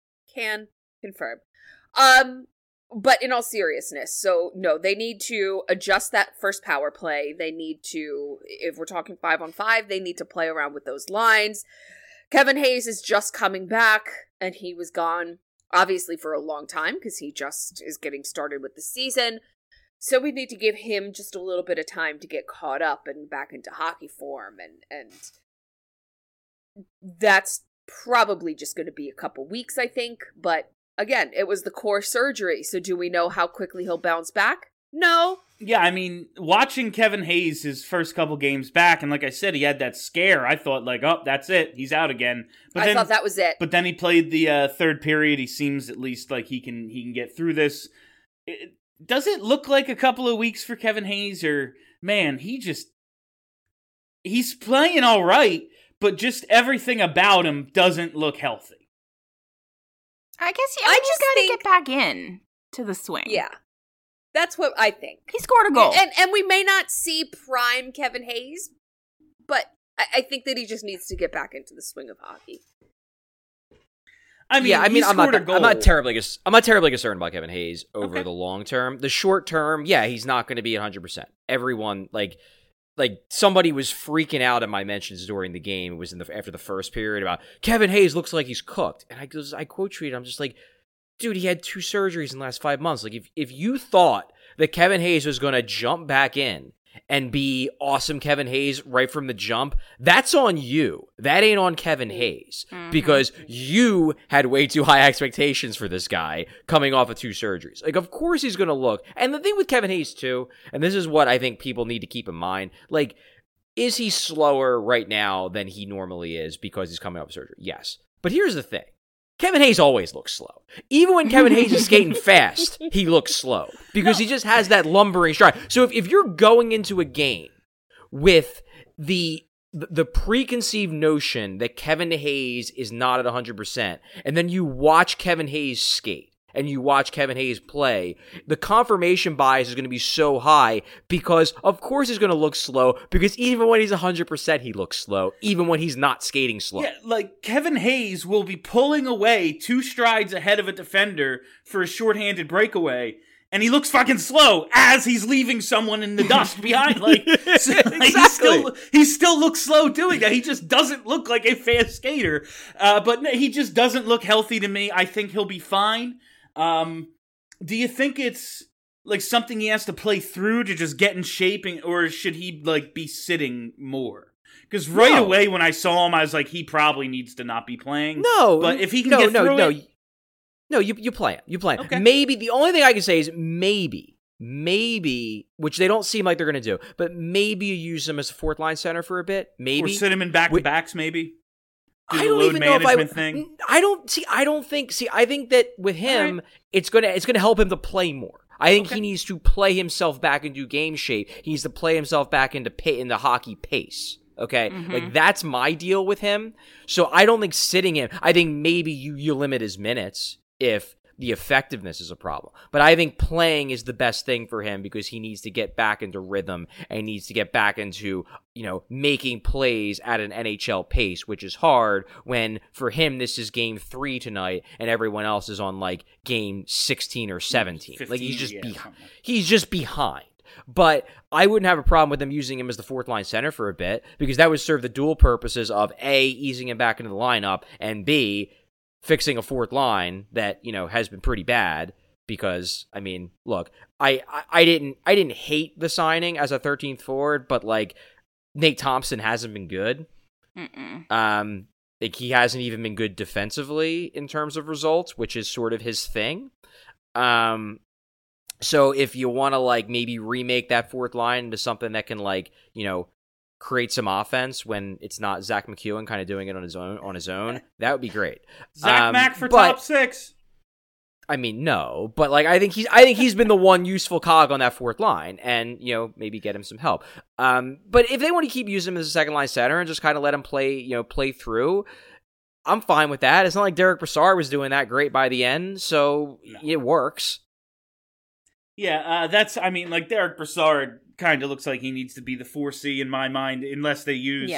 But in all seriousness, so no, they need to adjust that first power play. They need to, if we're talking 5-on-5, they need to play around with those lines. Kevin Hayes is just coming back, and he was gone, obviously, for a long time, because he just is getting started with the season. So we need to give him just a little bit of time to get caught up and back into hockey form, and that's probably just going to be a couple weeks, I think, but again, it was the core surgery, so do we know how quickly he'll bounce back? No. Yeah, I mean, watching Kevin Hayes his first couple games back, and like I said, he had that scare. I thought, like, oh, that's it. He's out again. But I thought that was it. But then he played the third period. He seems at least like he can get through this. Does it look like a couple of weeks for Kevin Hayes, or, man, he's playing all right, but just everything about him doesn't look healthy. I guess he just got to get back in to the swing. Yeah. That's what I think. He scored a goal. And we may not see prime Kevin Hayes, but I think that he just needs to get back into the swing of hockey. I mean, I'm not terribly concerned about Kevin Hayes over the long term. The short term, he's not going to be 100%. Everyone, like somebody was freaking out at my mentions during the game. It was after the first period about Kevin Hayes looks like he's cooked, and I quote tweeted. I'm just like, dude, he had 2 surgeries in the last 5 months. Like, if you thought that Kevin Hayes was going to jump back in and be awesome Kevin Hayes right from the jump, that's on you. That ain't on Kevin Hayes. Because you had way too high expectations for this guy coming off of 2 surgeries. Like, of course he's going to look. And the thing with Kevin Hayes, too, and this is what I think people need to keep in mind, like, is he slower right now than he normally is because he's coming off of surgery? Yes. But here's the thing. Kevin Hayes always looks slow. Even when Kevin Hayes is skating fast, he looks slow because he just has that lumbering stride. So if you're going into a game with the preconceived notion that Kevin Hayes is not at 100%, and then you watch Kevin Hayes skate, and you watch Kevin Hayes play, the confirmation bias is going to be so high because, of course, he's going to look slow because even when he's 100%, he looks slow, even when he's not skating slow. Yeah, like, Kevin Hayes will be pulling away 2 strides ahead of a defender for a shorthanded breakaway, and he looks fucking slow as he's leaving someone in the dust behind. Like, so, Exactly. he still looks slow doing that. He just doesn't look like a fast skater, but he just doesn't look healthy to me. I think he'll be fine. Do you think it's like something he has to play through to just get in shape, or should he like be sitting more? Because away when I saw him, I was like, he probably needs to not be playing. No, but if he can get through it, you play him. You play him. Okay. Maybe the only thing I can say is maybe, which they don't seem like they're going to do, but maybe you use him as a 4th line center for a bit. Maybe or sit him in back-to-backs. Maybe. I don't even know if I think that with him, it's gonna help him to play more. I think he needs to play himself back into game shape. He needs to play himself back into the hockey pace. Okay, like that's my deal with him. So I don't think sitting him. I think maybe you limit his minutes if the effectiveness is a problem. But I think playing is the best thing for him because he needs to get back into rhythm and needs to get back into, making plays at an NHL pace, which is hard when for him this is game 3 tonight and everyone else is on like game 16 or 17. 15, like he's just behind. But I wouldn't have a problem with them using him as the 4th line center for a bit because that would serve the dual purposes of A, easing him back into the lineup, and B, fixing a 4th line that, has been pretty bad because, I mean, look, I didn't hate the signing as a 13th forward, but like Nate Thompson hasn't been good. Like he hasn't even been good defensively in terms of results, which is sort of his thing. So if you want to like maybe remake that 4th line into something that can like, create some offense when it's not Zach McEwen kind of doing it on his own, that would be great. Zach Mack for top 6. I mean, no, but like I think he's been the one useful cog on that 4th line, and maybe get him some help. But if they want to keep using him as a 2nd line center and just kind of let him play through, I'm fine with that. It's not like Derek Brassard was doing that great by the end, so it works. Yeah, like Derek Brassard kind of looks like he needs to be the 4C in my mind, unless they use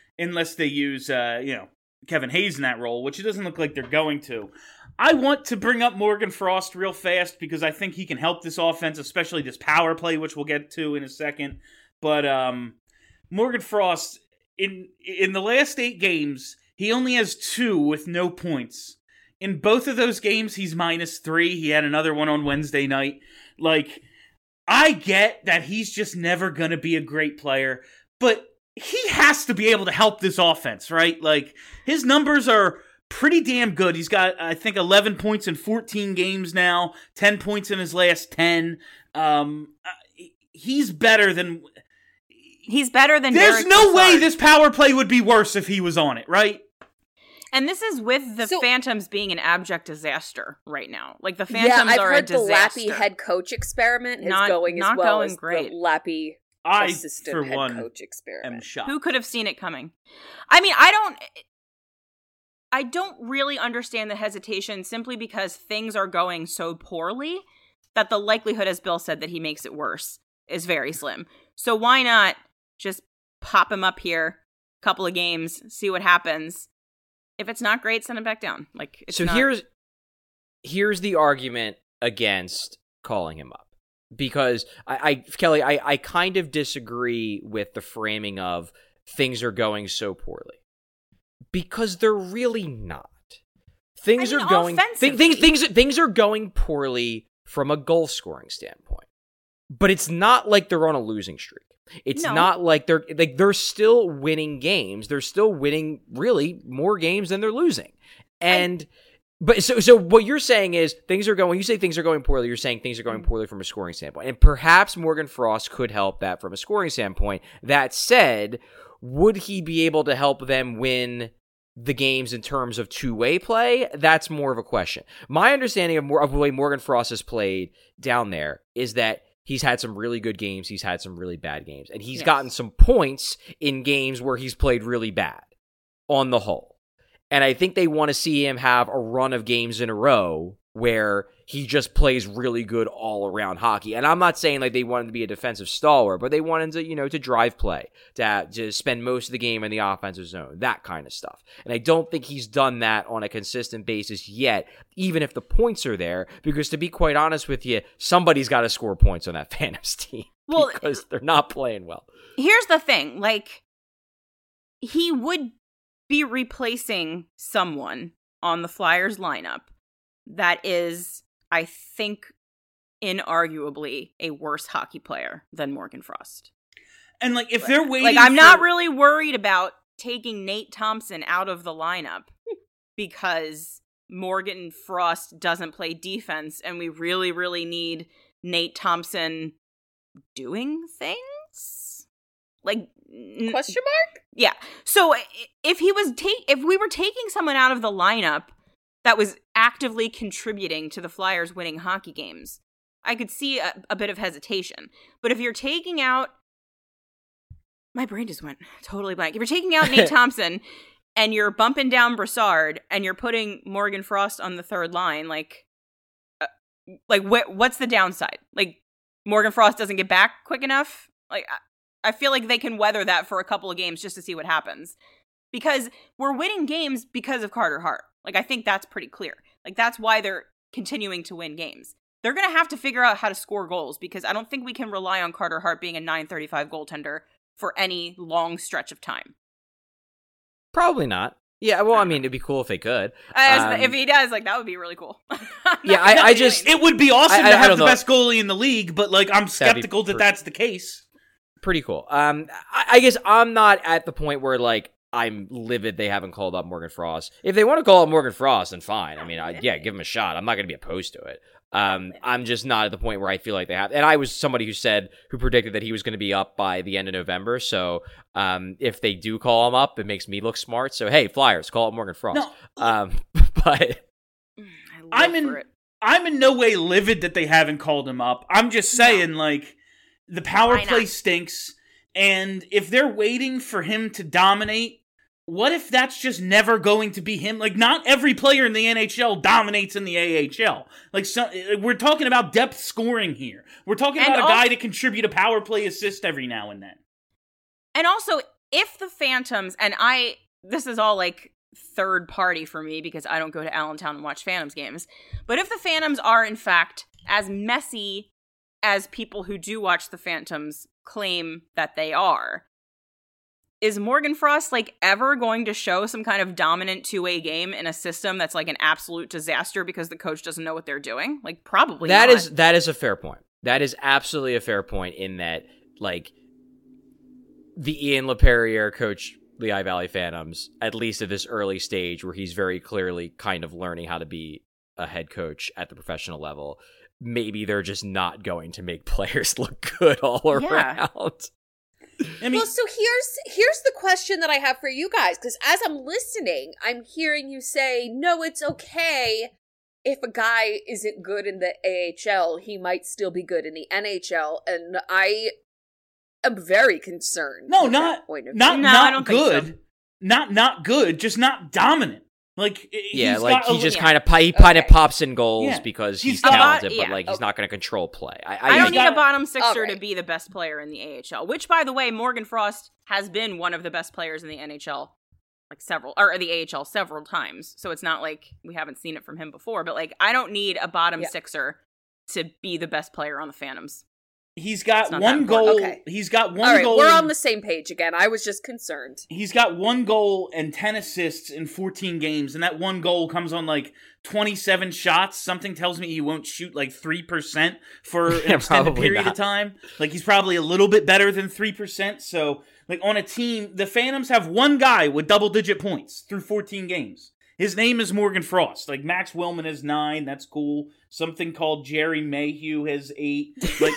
Kevin Hayes in that role, which it doesn't look like they're going to. I want to bring up Morgan Frost real fast because I think he can help this offense, especially this power play, which we'll get to in a second. But Morgan Frost, in the last 8 games, he only has 2 with no points. In both of those games, he's -3. He had another one on Wednesday night. Like, I get that he's just never going to be a great player, but he has to be able to help this offense, right? Like, his numbers are pretty damn good. He's got, I think, 11 points in 14 games now, 10 points in his last 10. He's better than There's Derek no Brassard. Way this power play would be worse if he was on it, right? And this is with the Phantoms being an abject disaster right now. Like, the Phantoms are a disaster. I've heard the Lappy head coach experiment is going as well as great. The Lappy assistant head coach experiment. Who could have seen it coming? I mean, I don't really understand the hesitation simply because things are going so poorly that the likelihood, as Bill said, that he makes it worse is very slim. So why not just pop him up here, couple of games, see what happens. If it's not great, send him back down. Like, it's here's the argument against calling him up. Because Kelly, I kind of disagree with the framing of things are going so poorly. Because they're really not. Things are going poorly from a goal scoring standpoint. But it's not like they're on a losing streak. It's not like they're still winning games. They're still winning really more games than they're losing. But what you're saying is when you say things are going poorly, you're saying things are going poorly from a scoring standpoint. And perhaps Morgan Frost could help that from a scoring standpoint. That said, would he be able to help them win the games in terms of two-way play? That's more of a question. My understanding of the way Morgan Frost has played down there is that he's had some really good games, he's had some really bad games, and he's gotten some points in games where he's played really bad on the whole. And I think they want to see him have a run of games in a row where he just plays really good all-around hockey. And I'm not saying like they want him to be a defensive stalwart, but they want him to, to drive play, to spend most of the game in the offensive zone, that kind of stuff. And I don't think he's done that on a consistent basis yet, even if the points are there, because to be quite honest with you, somebody's got to score points on that Phantoms team because they're not playing well. Here's the thing, like, he would be replacing someone on the Flyers lineup that is, I think, inarguably a worse hockey player than Morgan Frost. And like, if they're waiting, like, I'm not really worried about taking Nate Thompson out of the lineup because Morgan Frost doesn't play defense, and we really, really need Nate Thompson doing things. Like, question mark? Yeah. So if we were taking someone out of the lineup that was actively contributing to the Flyers winning hockey games, I could see a bit of hesitation. But if you're taking out, my brain just went totally blank. If you're taking out Nate Thompson and you're bumping down Brassard and you're putting Morgan Frost on the third line, what's the downside? Like, Morgan Frost doesn't get back quick enough? Like, I feel like they can weather that for a couple of games just to see what happens. Because we're winning games because of Carter Hart. Like, I think that's pretty clear. Like, that's why they're continuing to win games. They're going to have to figure out how to score goals because I don't think we can rely on Carter Hart being a .935 goaltender for any long stretch of time. Probably not. Yeah, well, I mean, it'd be cool if they could. If he does, like, that would be really cool. Yeah, it would be awesome to have the best goalie in the league, but, like, I'm skeptical that's the case. Pretty cool. I guess I'm not at the point where, like, I'm livid they haven't called up Morgan Frost. If they want to call up Morgan Frost, then fine. I mean, give him a shot. I'm not going to be opposed to it. I'm just not at the point where I feel like they have. And I was somebody who predicted that he was going to be up by the end of November. So if they do call him up, it makes me look smart. So, hey, Flyers, call up Morgan Frost. No. But I'm in no way livid that they haven't called him up. I'm just saying, like, the power play stinks. And if they're waiting for him to dominate, what if that's just never going to be him? Like, not every player in the NHL dominates in the AHL. Like, we're talking about depth scoring here. We're talking about a guy to contribute a power play assist every now and then. And also, if the Phantoms, and this is all like third party for me because I don't go to Allentown and watch Phantoms games, but if the Phantoms are in fact as messy as people who do watch the Phantoms claim that they are, is Morgan Frost, like, ever going to show some kind of dominant two-way game in a system that's, like, an absolute disaster because the coach doesn't know what they're doing? Like, probably not. That is a fair point. That is absolutely a fair point in that, like, the Ian LePerriere coach Lehigh Valley Phantoms, at least at this early stage where he's very clearly kind of learning how to be a head coach at the professional level, maybe they're just not going to make players look good all around. I mean, well, so here's the question that I have for you guys, because as I'm listening, I'm hearing you say, no, it's okay if a guy isn't good in the AHL, he might still be good in the NHL, and I am very concerned. No, not good. Not good, just not dominant. Like, yeah, he's like got he just yeah. kind of Okay. pops in goals Yeah. because He's he's got- talented, yeah. but like he's not going to control play. I don't need got- a bottom sixer Alright. to be the best player in the AHL, which, by the way, Morgan Frost has been one of the best players in the NHL, like the AHL several times. So it's not like we haven't seen it from him before, but like, I don't need a bottom sixer to be the best player on the Phantoms. He's got not one that goal. important. Okay. He's got one All right, goal. we're on the same page again. I was just concerned. He's got one goal and 10 assists in 14 games, and that one goal comes on like 27 shots. Something tells me he won't shoot like 3% for an extended probably period not. of time. Like, he's probably a little bit better than 3%. So, like, on a team, the Phantoms have one guy with double-digit points through 14 games. His name is Morgan Frost. Like, Max Willman has 9. That's cool. Something called Jerry Mayhew has 8. Like,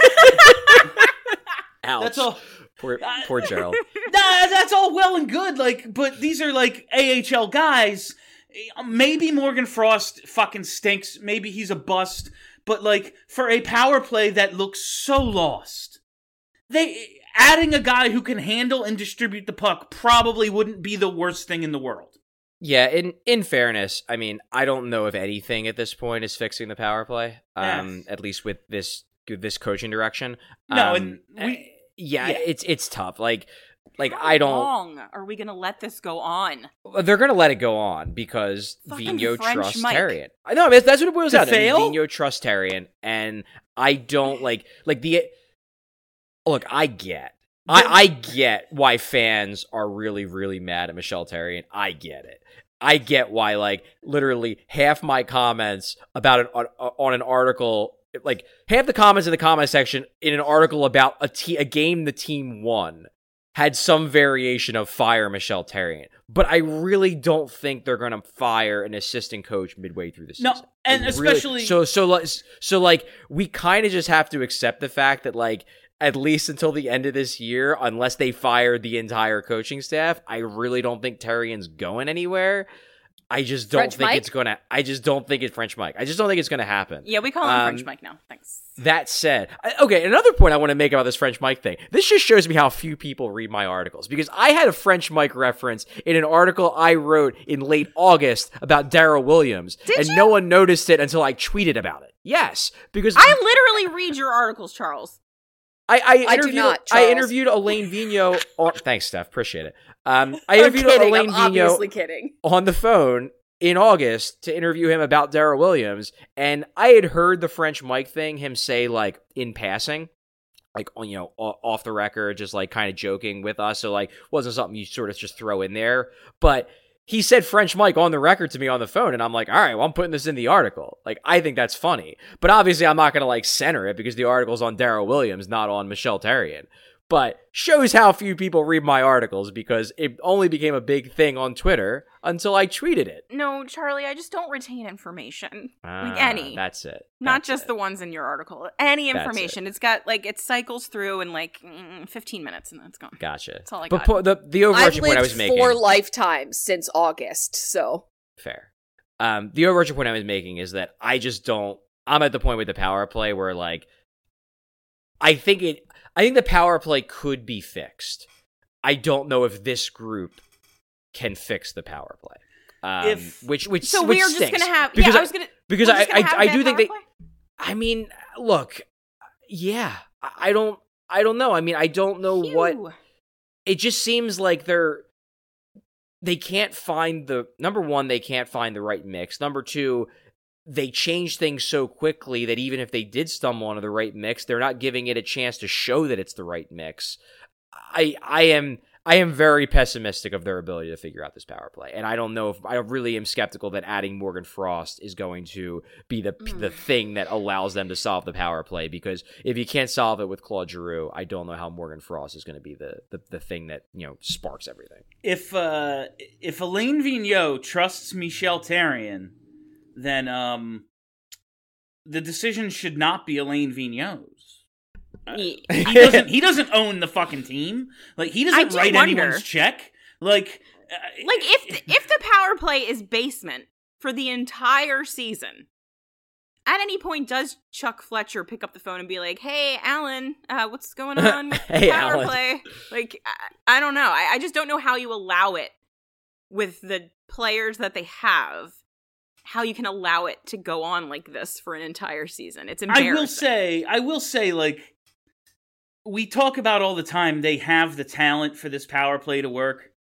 Ouch. that's all. Poor Gerald. That's all well and good, like, but these are like AHL guys. Maybe Morgan Frost fucking stinks. Maybe he's a bust. But like, for a power play that looks so lost, adding a guy who can handle and distribute the puck probably wouldn't be the worst thing in the world. Yeah, in fairness, I mean, I don't know if anything at this point is fixing the power play. At least with this coaching direction. No, and it's tough. Like How I don't. long are we gonna let this go on? They're gonna let it go on because Fucking Vigneault French trusts Mike. Therrien. I know that's what it boils To out to. fail? Vigneault trusts Therrien, and I don't like the. Look, I get why fans are really, really mad at Michel Therrien. I get it. I get why, like, literally half my comments about it on an article, like, half the comments in the comment section in an article about a game the team won had some variation of fire Michel Therrien. But I really don't think they're going to fire an assistant coach midway through the season. No, and especially... So, like, we kind of just have to accept the fact that, like, at least until the end of this year, unless they fire the entire coaching staff, I really don't think Terrien's going anywhere. I just don't think it's gonna. I just don't think it's French Mike. I just don't think it's gonna happen. Yeah, we call him French Mike now. Thanks. That said, okay, another point I want to make about this French Mike thing. This just shows me how few people read my articles, because I had a French Mike reference in an article I wrote in late August about Darryl Williams, and no one noticed it until I tweeted about it. Yes, because I literally read your articles, Charles. I do not, Charles. I interviewed Elaine Vigneault. Thanks, Steph. Appreciate it. I interviewed Elaine I'm obviously Vigneault kidding. on the phone in August to interview him about Darryl Williams, and I had heard the French Mike thing, him say, like, in passing, like, you know, off the record, just like kind of joking with us. So like, wasn't something you sort of just throw in there, but he said French Mike on the record to me on the phone, and I'm like, all right, well, I'm putting this in the article. Like, I think that's funny. But obviously, I'm not going to, like, center it because the article's on Darryl Williams, not on Michel Therrien. But shows how few people read my articles, because it only became a big thing on Twitter until I tweeted it. No, Charlie, I just don't retain information. Like any. That's it. Not just the ones in your article. Any information. It's got, like, it cycles through in, like, 15 minutes and then it's gone. Gotcha. That's all I but got. the overarching I've point I lived was making... 4 lifetimes since August, so... Fair. The overarching point I was making is that I just don't... I'm at the point with the power play where, like, I think the power play could be fixed. I don't know if this group can fix the power play. Which so which we're stinks. just gonna have... Because Yeah, I was gonna... Because I do think they... Play? I mean, look, yeah, I don't know. I mean, I don't know what... It just seems like they can't find the... Number one, they can't find the right mix. Number two, they change things so quickly that even if they did stumble onto the right mix, they're not giving it a chance to show that it's the right mix. I am very pessimistic of their ability to figure out this power play, and I don't know if I really am skeptical that adding Morgan Frost is going to be the thing that allows them to solve the power play. Because if you can't solve it with Claude Giroux, I don't know how Morgan Frost is going to be the thing that, you know, sparks everything. If Elaine Vigneault trusts Michel Therrien, then the decision should not be Elaine Vigneault's. He doesn't own the fucking team. Like, he doesn't write anyone's check. Like if the power play is basement for the entire season, at any point does Chuck Fletcher pick up the phone and be like, "Hey, Alan, what's going on with the power play?" Like, I don't know. I just don't know how you allow it with the players that they have, how you can allow it to go on like this for an entire season. It's embarrassing. I will say, like, we talk about all the time, they have the talent for this power play to work.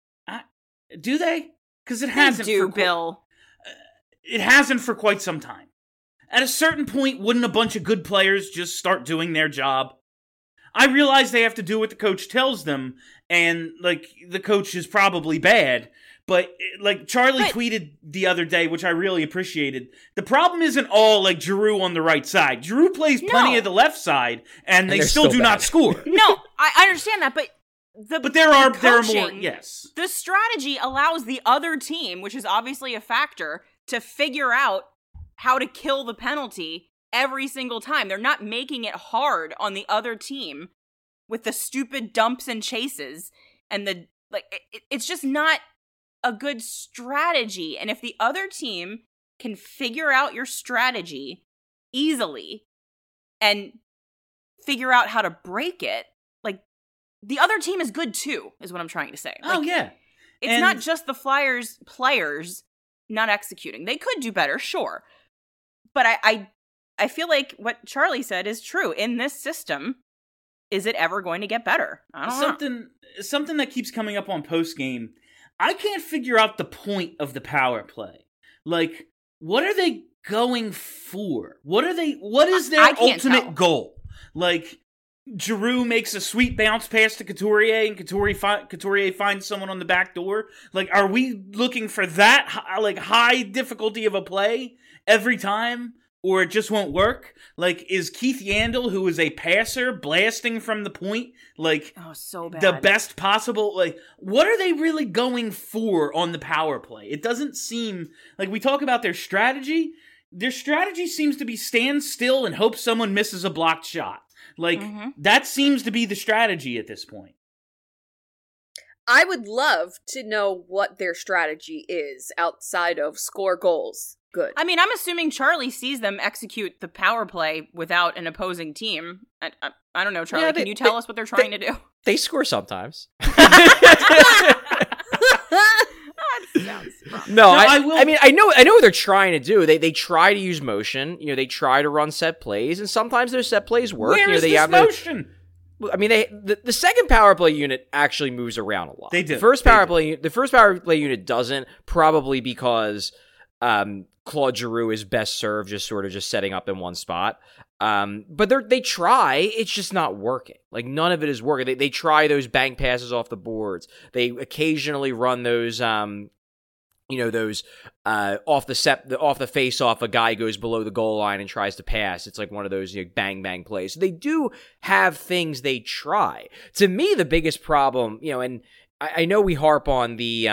Do they? Because it hasn't. They do, Bill. It hasn't for quite some time. At a certain point, wouldn't a bunch of good players just start doing their job? I realize they have to do what the coach tells them, and, like, the coach is probably bad, but, like, Charlie tweeted the other day, which I really appreciated, the problem isn't all, like, Giroux on the right side. Giroux plays plenty of the left side, and they still do not score. No, I understand that, but there are more, yes. The strategy allows the other team, which is obviously a factor, to figure out how to kill the penalty every single time. They're not making it hard on the other team with the stupid dumps and chases, and it's just not a good strategy. And if the other team can figure out your strategy easily and figure out how to break it, like, the other team is good too, is what I'm trying to say. Oh, yeah. It's not just the Flyers players not executing. They could do better, sure. But I feel like what Charlie said is true. In this system, is it ever going to get better? I don't know. Something that keeps coming up on post-game, I can't figure out the point of the power play. Like, what are they going for? What is their ultimate goal? Like, Giroux makes a sweet bounce pass to Couturier, and Couturier finds someone on the back door. Like, are we looking for that, high difficulty of a play every time? Or it just won't work? Like, is Keith Yandel, who is a passer, blasting from the point, like, so bad, the best possible? Like, what are they really going for on the power play? It doesn't seem, like, we talk about their strategy. Their strategy seems to be stand still and hope someone misses a blocked shot. Like, that seems to be the strategy at this point. I would love to know what their strategy is outside of score goals. Good. I mean, I'm assuming Charlie sees them execute the power play without an opposing team. I don't know, Charlie. Can you tell us what they're trying to do? They score sometimes. No, I mean, I know what they're trying to do. They try to use motion. You know, they try to run set plays, and sometimes those set plays work. Where is they this have motion? I mean, the second power play unit actually moves around a lot. They do. The first power play unit doesn't, probably because Claude Giroux is best served just setting up in one spot. But they try, it's just not working. Like, none of it is working. They try those bank passes off the boards. They occasionally run those off the face off, a guy goes below the goal line and tries to pass. It's like one of those bang bang plays. So they do have things they try. To me, the biggest problem, and I know we harp on the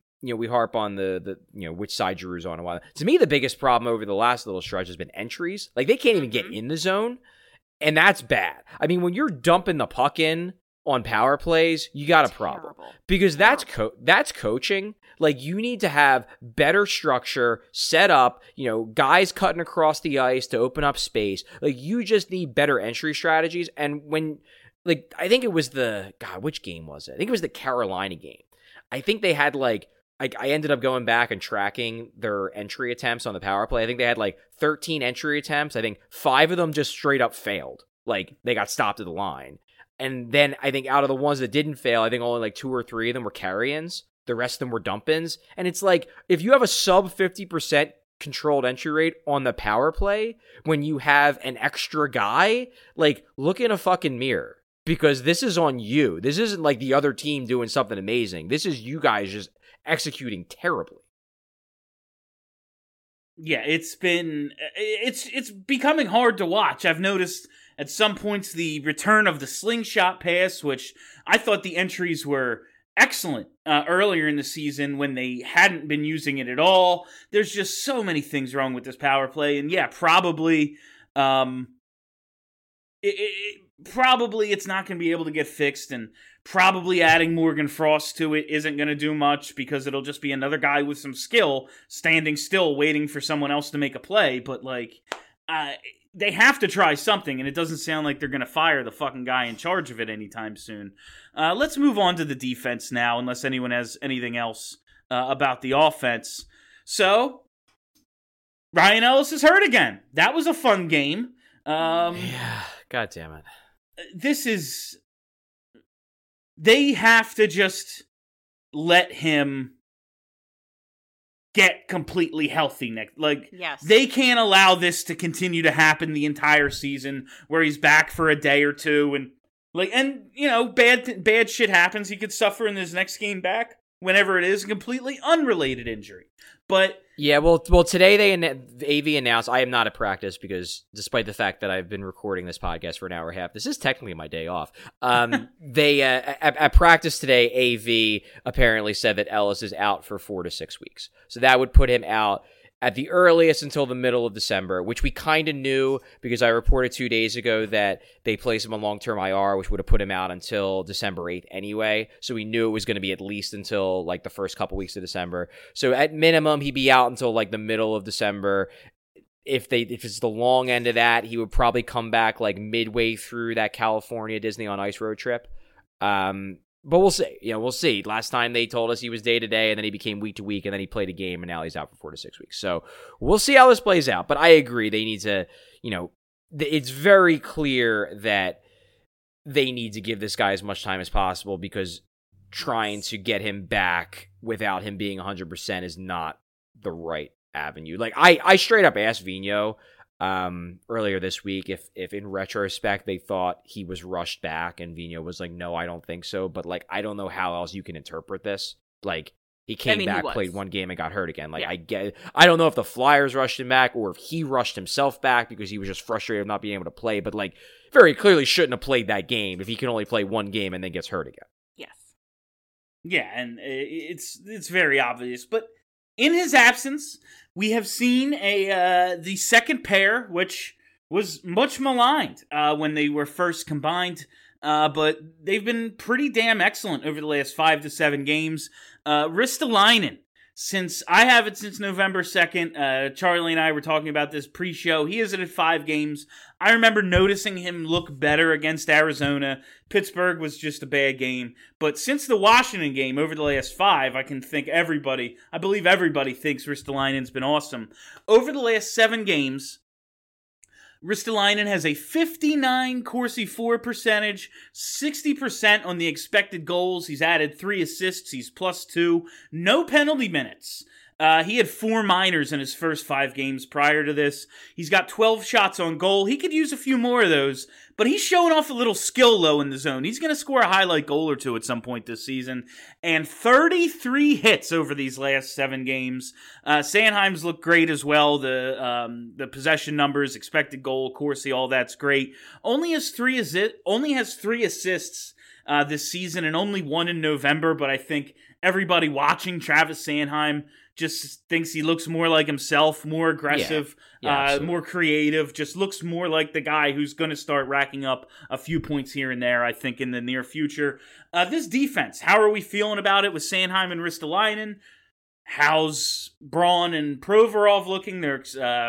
which side Giroux's on a while. To me, the biggest problem over the last little stretch has been entries. Like, they can't even get in the zone, and that's bad. I mean, when you're dumping the puck in on power plays, you got a problem. Because that's coaching. Like, you need to have better structure, set up, guys cutting across the ice to open up space. Like, you just need better entry strategies. And when, I think it was which game was it? I think it was the Carolina game. I think they had, I ended up going back and tracking their entry attempts on the power play. I think they had 13 entry attempts. I think 5 of them just straight up failed. Like, they got stopped at the line. And then I think out of the ones that didn't fail, I think only 2 or 3 of them were carry-ins. The rest of them were dump-ins. And it's if you have a sub 50% controlled entry rate on the power play, when you have an extra guy, look in a fucking mirror. Because this is on you. This isn't the other team doing something amazing. This is you guys just executing terribly. Yeah, it's becoming hard to watch. I've noticed at some points the return of the slingshot pass, which I thought the entries were excellent earlier in the season when they hadn't been using it at all. There's just so many things wrong with this power play, and yeah, probably it's not going to be able to get fixed, and probably adding Morgan Frost to it isn't going to do much because it'll just be another guy with some skill standing still waiting for someone else to make a play. But they have to try something, and it doesn't sound like they're going to fire the fucking guy in charge of it anytime soon. Let's move on to the defense now, unless anyone has anything else about the offense. So, Ryan Ellis is hurt again. That was a fun game. Yeah, God damn it. They have to just let him get completely healthy next. Like, yes. They can't allow this to continue to happen the entire season where he's back for a day or two and bad shit happens. He could suffer in his next game back whenever it is, a completely unrelated injury. But yeah, well, today AV announced I am not at practice because despite the fact that I've been recording this podcast for an hour and a half, this is technically my day off. They at practice today, AV apparently said that Ellis is out for 4 to 6 weeks, so that would put him out at the earliest until the middle of December, which we kind of knew because I reported 2 days ago that they placed him on long-term IR, which would have put him out until December 8th anyway. So we knew it was going to be at least until like the first couple weeks of December. So at minimum, he'd be out until like the middle of December. If it's the long end of that, he would probably come back like midway through that California Disney on Ice road trip. But we'll see. We'll see. Last time they told us he was day to day, and then he became week to week, and then he played a game, and now he's out for 4 to 6 weeks. So we'll see how this plays out. But I agree. They need to, it's very clear that they need to give this guy as much time as possible because trying to get him back without him being 100% is not the right avenue. Like, I straight up asked Vino earlier this week if in retrospect they thought he was rushed back, and Vino was like, no, I don't think so, but like I don't know how else you can interpret this. Like, he came back, played one game, and got hurt again. Like, yeah. I don't know if the Flyers rushed him back or if he rushed himself back because he was just frustrated of not being able to play, but like very clearly shouldn't have played that game if he can only play one game and then gets hurt again. Yes. Yeah, and it's very obvious, but in his absence, we have seen the second pair, which was much maligned when they were first combined, but they've been pretty damn excellent over the last 5 to 7 games. Ristolainen, since I have it since November 2nd, Charlie and I were talking about this pre-show. He is at 5 games. I remember noticing him look better against Arizona. Pittsburgh was just a bad game. But since the Washington game over the last 5, I believe everybody thinks Ristolainen's been awesome. Over the last 7 games, Ristolainen has a 59 Corsi for percentage, 60% on the expected goals. He's added 3 assists. He's +2. No penalty minutes. He had 4 minors in his first 5 games prior to this. He's got 12 shots on goal. He could use a few more of those, but he's showing off a little skill low in the zone. He's going to score a highlight goal or 2 at some point this season. And 33 hits over these last 7 games. Sanheim's looked great as well. The possession numbers, expected goal, Corsi, all that's great. Only has 3 assists this season and only 1 in November, but I think everybody watching Travis Sanheim just thinks he looks more like himself, more aggressive, more creative, just looks more like the guy who's going to start racking up a few points here and there, I think, in the near future. This defense, how are we feeling about it with Sanheim and Ristolainen? How's Braun and Provorov looking? Their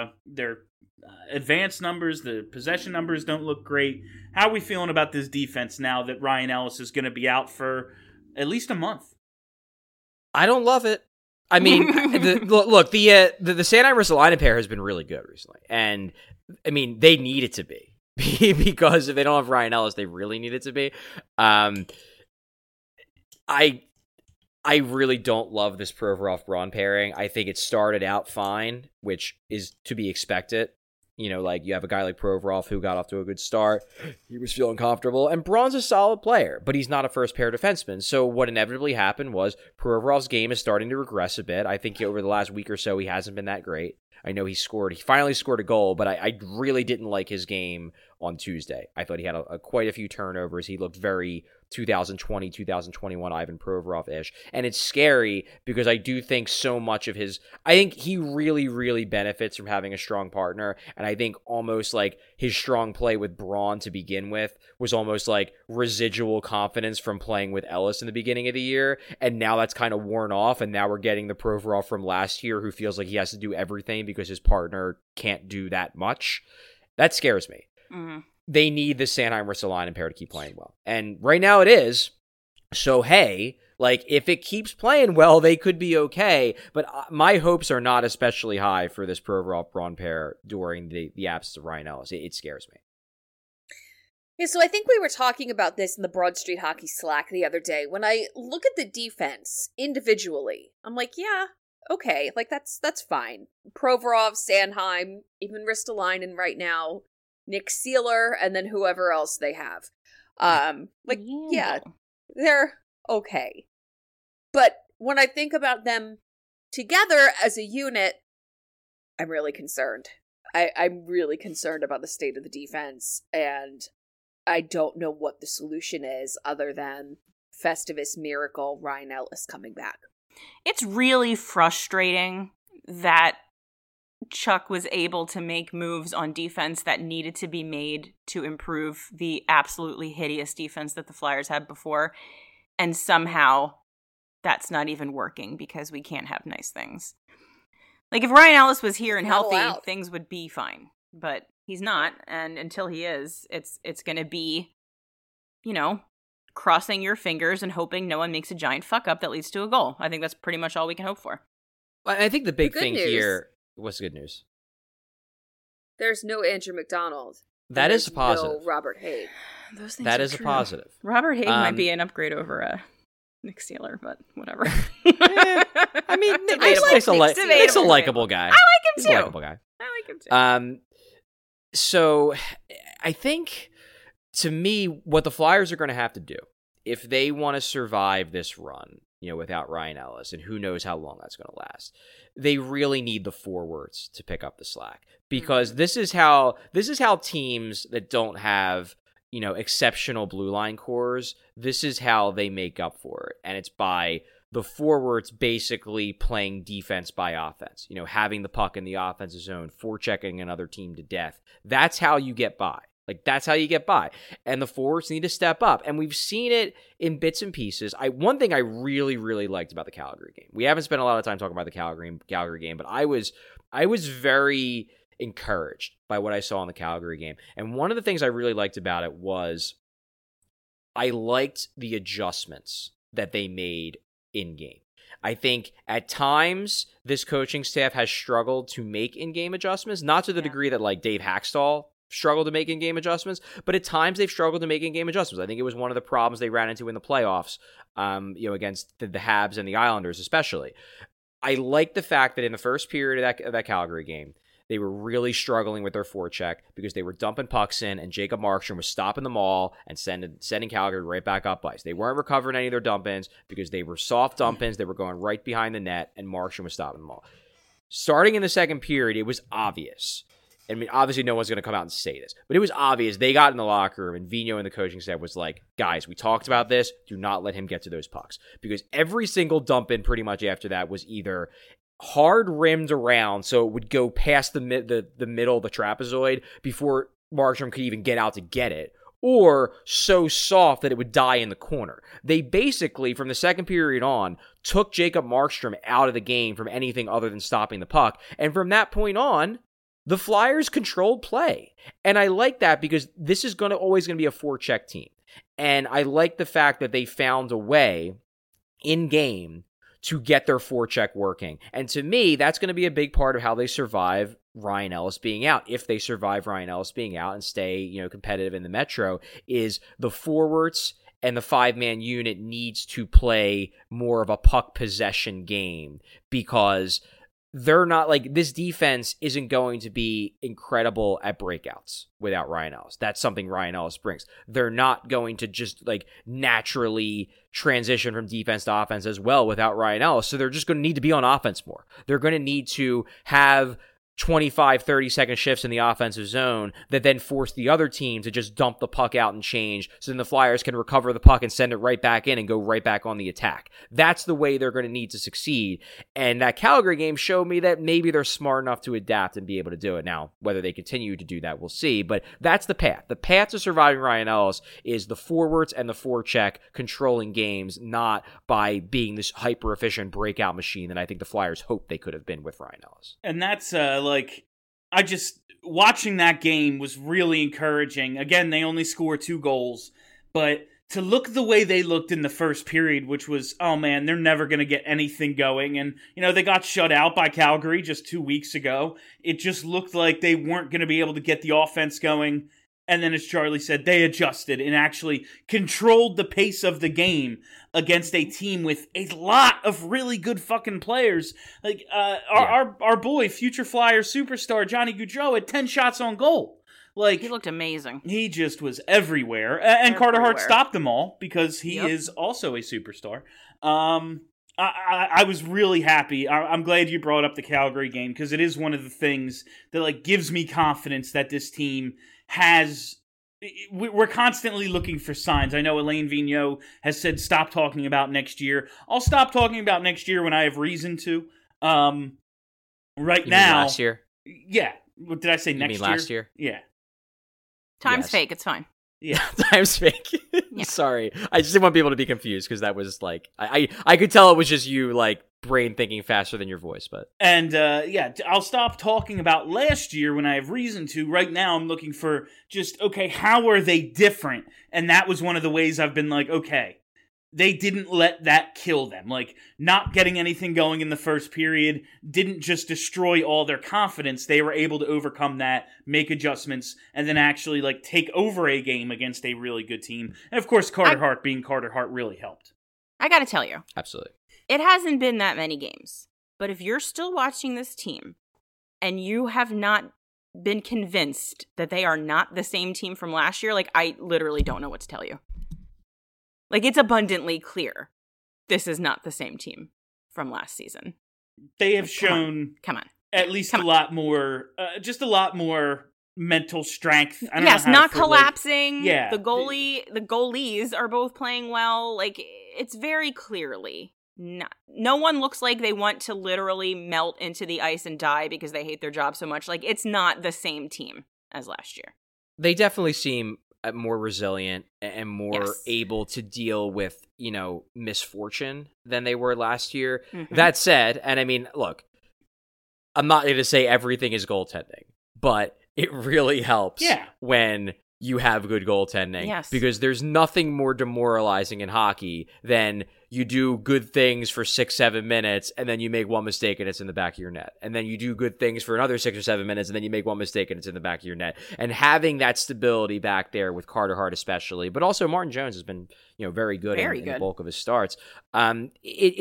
advanced numbers, the possession numbers don't look great. How are we feeling about this defense now that Ryan Ellis is going to be out for at least a month? I don't love it. I mean, the Sanheim Ristolainen pair has been really good recently, and I mean they need it to be because if they don't have Ryan Ellis, they really need it to be. I really don't love this Provorov-Braun pairing. I think it started out fine, which is to be expected. Like you have a guy like Provorov who got off to a good start. He was feeling comfortable. And Braun's a solid player, but he's not a first-pair defenseman. So what inevitably happened was Provorov's game is starting to regress a bit. I think over the last week or so, he hasn't been that great. I know he finally scored a goal, but I really didn't like his game on Tuesday. I thought he had quite a few turnovers. He looked very 2020, 2021 Ivan Provorov-ish. And it's scary because I do think so much of I think he really, really benefits from having a strong partner. And I think almost like his strong play with Braun to begin with was almost like residual confidence from playing with Ellis in the beginning of the year. And now that's kind of worn off. And now we're getting the Provorov from last year who feels like he has to do everything because his partner can't do that much. That scares me. Mm-hmm. They need the Sanheim Ristolainen pair to keep playing well. And right now it is. So, hey, Like, if it keeps playing well, they could be okay. But my hopes are not especially high for this Provorov Braun pair during the absence of Ryan Ellis. It scares me. Yeah, so I think we were talking about this in the Broad Street Hockey Slack the other day. When I look at the defense individually, I'm like, yeah, okay, like that's fine. Provorov, Sanheim, even Ristolainen right now, Nick Seeler, and then whoever else they have. Yeah, they're okay. But when I think about them together as a unit, I'm really concerned. I'm really concerned about the state of the defense, and I don't know what the solution is other than Festivus miracle Ryan Ellis coming back. It's really frustrating that Chuck was able to make moves on defense that needed to be made to improve the absolutely hideous defense that the Flyers had before, and somehow that's not even working because we can't have nice things. Like, if Ryan Ellis was here and healthy, things would be fine. But he's not, and until he is, it's going to be, crossing your fingers and hoping no one makes a giant fuck up that leads to a goal. I think that's pretty much all we can hope for. I think the big thing here... What's the good news? There's no Andrew McDonald. That is a positive. No Robert Haig. Those things that are is true. A positive. Robert Haig might be an upgrade over Nick Seeler, but whatever. I mean, Nick's a likable guy. I like him He's too. a likable guy. I like him too. So I think, to me, what the Flyers are going to have to do, if they want to survive this run, without Ryan Ellis, and who knows how long that's going to last, they really need the forwards to pick up the slack, because this is how teams that don't have, exceptional blue line cores, this is how they make up for it, and it's by the forwards basically playing defense by offense, having the puck in the offensive zone, forechecking another team to death. That's how you get by. That's how you get by. And the forwards need to step up. And we've seen it in bits and pieces. One thing I really, really liked about the Calgary game, we haven't spent a lot of time talking about the Calgary game, but I was very encouraged by what I saw in the Calgary game. And one of the things I really liked about it was I liked the adjustments that they made in-game. I think at times this coaching staff has struggled to make in-game adjustments, not to the degree that Dave Hackstall struggled to make in-game adjustments, but at times they've struggled to make in-game adjustments. I think it was one of the problems they ran into in the playoffs, against the Habs and the Islanders especially. I like the fact that in the first period of that Calgary game, they were really struggling with their forecheck because they were dumping pucks in, and Jacob Markstrom was stopping them all and sending Calgary right back up ice. They weren't recovering any of their dump-ins because they were soft dump-ins. They were going right behind the net, and Markstrom was stopping them all. Starting in the second period, it was obvious. I mean, obviously no one's going to come out and say this, but it was obvious. They got in the locker room, and Vigneault and the coaching staff was like, guys, we talked about this. Do not let him get to those pucks. Because every single dump-in pretty much after that was either hard rimmed around so it would go past the middle of the trapezoid before Markstrom could even get out to get it, or so soft that it would die in the corner. They basically, from the second period on, took Jacob Markstrom out of the game from anything other than stopping the puck. And from that point on, the Flyers controlled play. And I like that because this is always going to be a forecheck team. And I like the fact that they found a way in game to get their forecheck working. And to me, that's going to be a big part of how they survive Ryan Ellis being out. If they survive Ryan Ellis being out and stay, competitive in the Metro, is the forwards and the five-man unit needs to play more of a puck possession game, because they're not this defense isn't going to be incredible at breakouts without Ryan Ellis. That's something Ryan Ellis brings. They're not going to just naturally transition from defense to offense as well without Ryan Ellis. So they're just going to need to be on offense more. They're going to need to have 25, 30-second shifts in the offensive zone that then force the other team to just dump the puck out and change, so then the Flyers can recover the puck and send it right back in and go right back on the attack. That's the way they're going to need to succeed. And that Calgary game showed me that maybe they're smart enough to adapt and be able to do it. Now, whether they continue to do that, we'll see. But that's the path. The path to surviving Ryan Ellis is the forwards and the forecheck controlling games, not by being this hyper-efficient breakout machine that I think the Flyers hoped they could have been with Ryan Ellis. And that's watching that game was really encouraging. Again, they only scored 2 goals, but to look the way they looked in the first period, which was, oh man, they're never going to get anything going. And, they got shut out by Calgary just 2 weeks ago. It just looked like they weren't going to be able to get the offense going. And then, as Charlie said, they adjusted and actually controlled the pace of the game against a team with a lot of really good fucking players. Like, our boy, future Flyer superstar Johnny Gaudreau had 10 shots on goal. Like, he looked amazing. He just was everywhere. And Carter Hart stopped them all because he is also a superstar. I was really happy. I'm glad you brought up the Calgary game because it is one of the things that gives me confidence that this team has. We're constantly looking for signs. I know Alain Vigneault has said stop talking about next year. I'll stop talking about next year when I have reason to. Right you now, mean last year? Yeah. What did I say? Next year? Last year? Yeah. Time's fake. It's fine. Yeah, time's fake. Yeah. Sorry, I just didn't want people to be confused because that was I could tell it was just you brain thinking faster than your voice, but I'll stop talking about last year when I have reason to. Right now, I'm looking for just how are they different, and that was one of the ways I've been okay. They didn't let that kill them. Not getting anything going in the first period didn't just destroy all their confidence. They were able to overcome that, make adjustments, and then actually, take over a game against a really good team. And, of course, Carter Hart being Carter Hart really helped. I gotta tell you. Absolutely. It hasn't been that many games. But if you're still watching this team, and you have not been convinced that they are not the same team from last year, I literally don't know what to tell you. It's abundantly clear this is not the same team from last season. They have shown come on. At least a lot more, just a lot more mental strength. I don't yes, know how not collapsing. Yeah. The goalies are both playing well. It's very clearly not. No one looks like they want to literally melt into the ice and die because they hate their job so much. It's not the same team as last year. They definitely seem more resilient and more able to deal with, misfortune than they were last year. Mm-hmm. That said, and I mean, look, I'm not going to say everything is goaltending, but it really helps when you have good goaltending. Yes. Because there's nothing more demoralizing in hockey than you do good things for 6-7 minutes and then you make one mistake and it's in the back of your net. And then you do good things for another 6 or 7 minutes and then you make one mistake and it's in the back of your net. And having that stability back there with Carter Hart especially, but also Martin Jones has been, very good in the bulk of his starts. I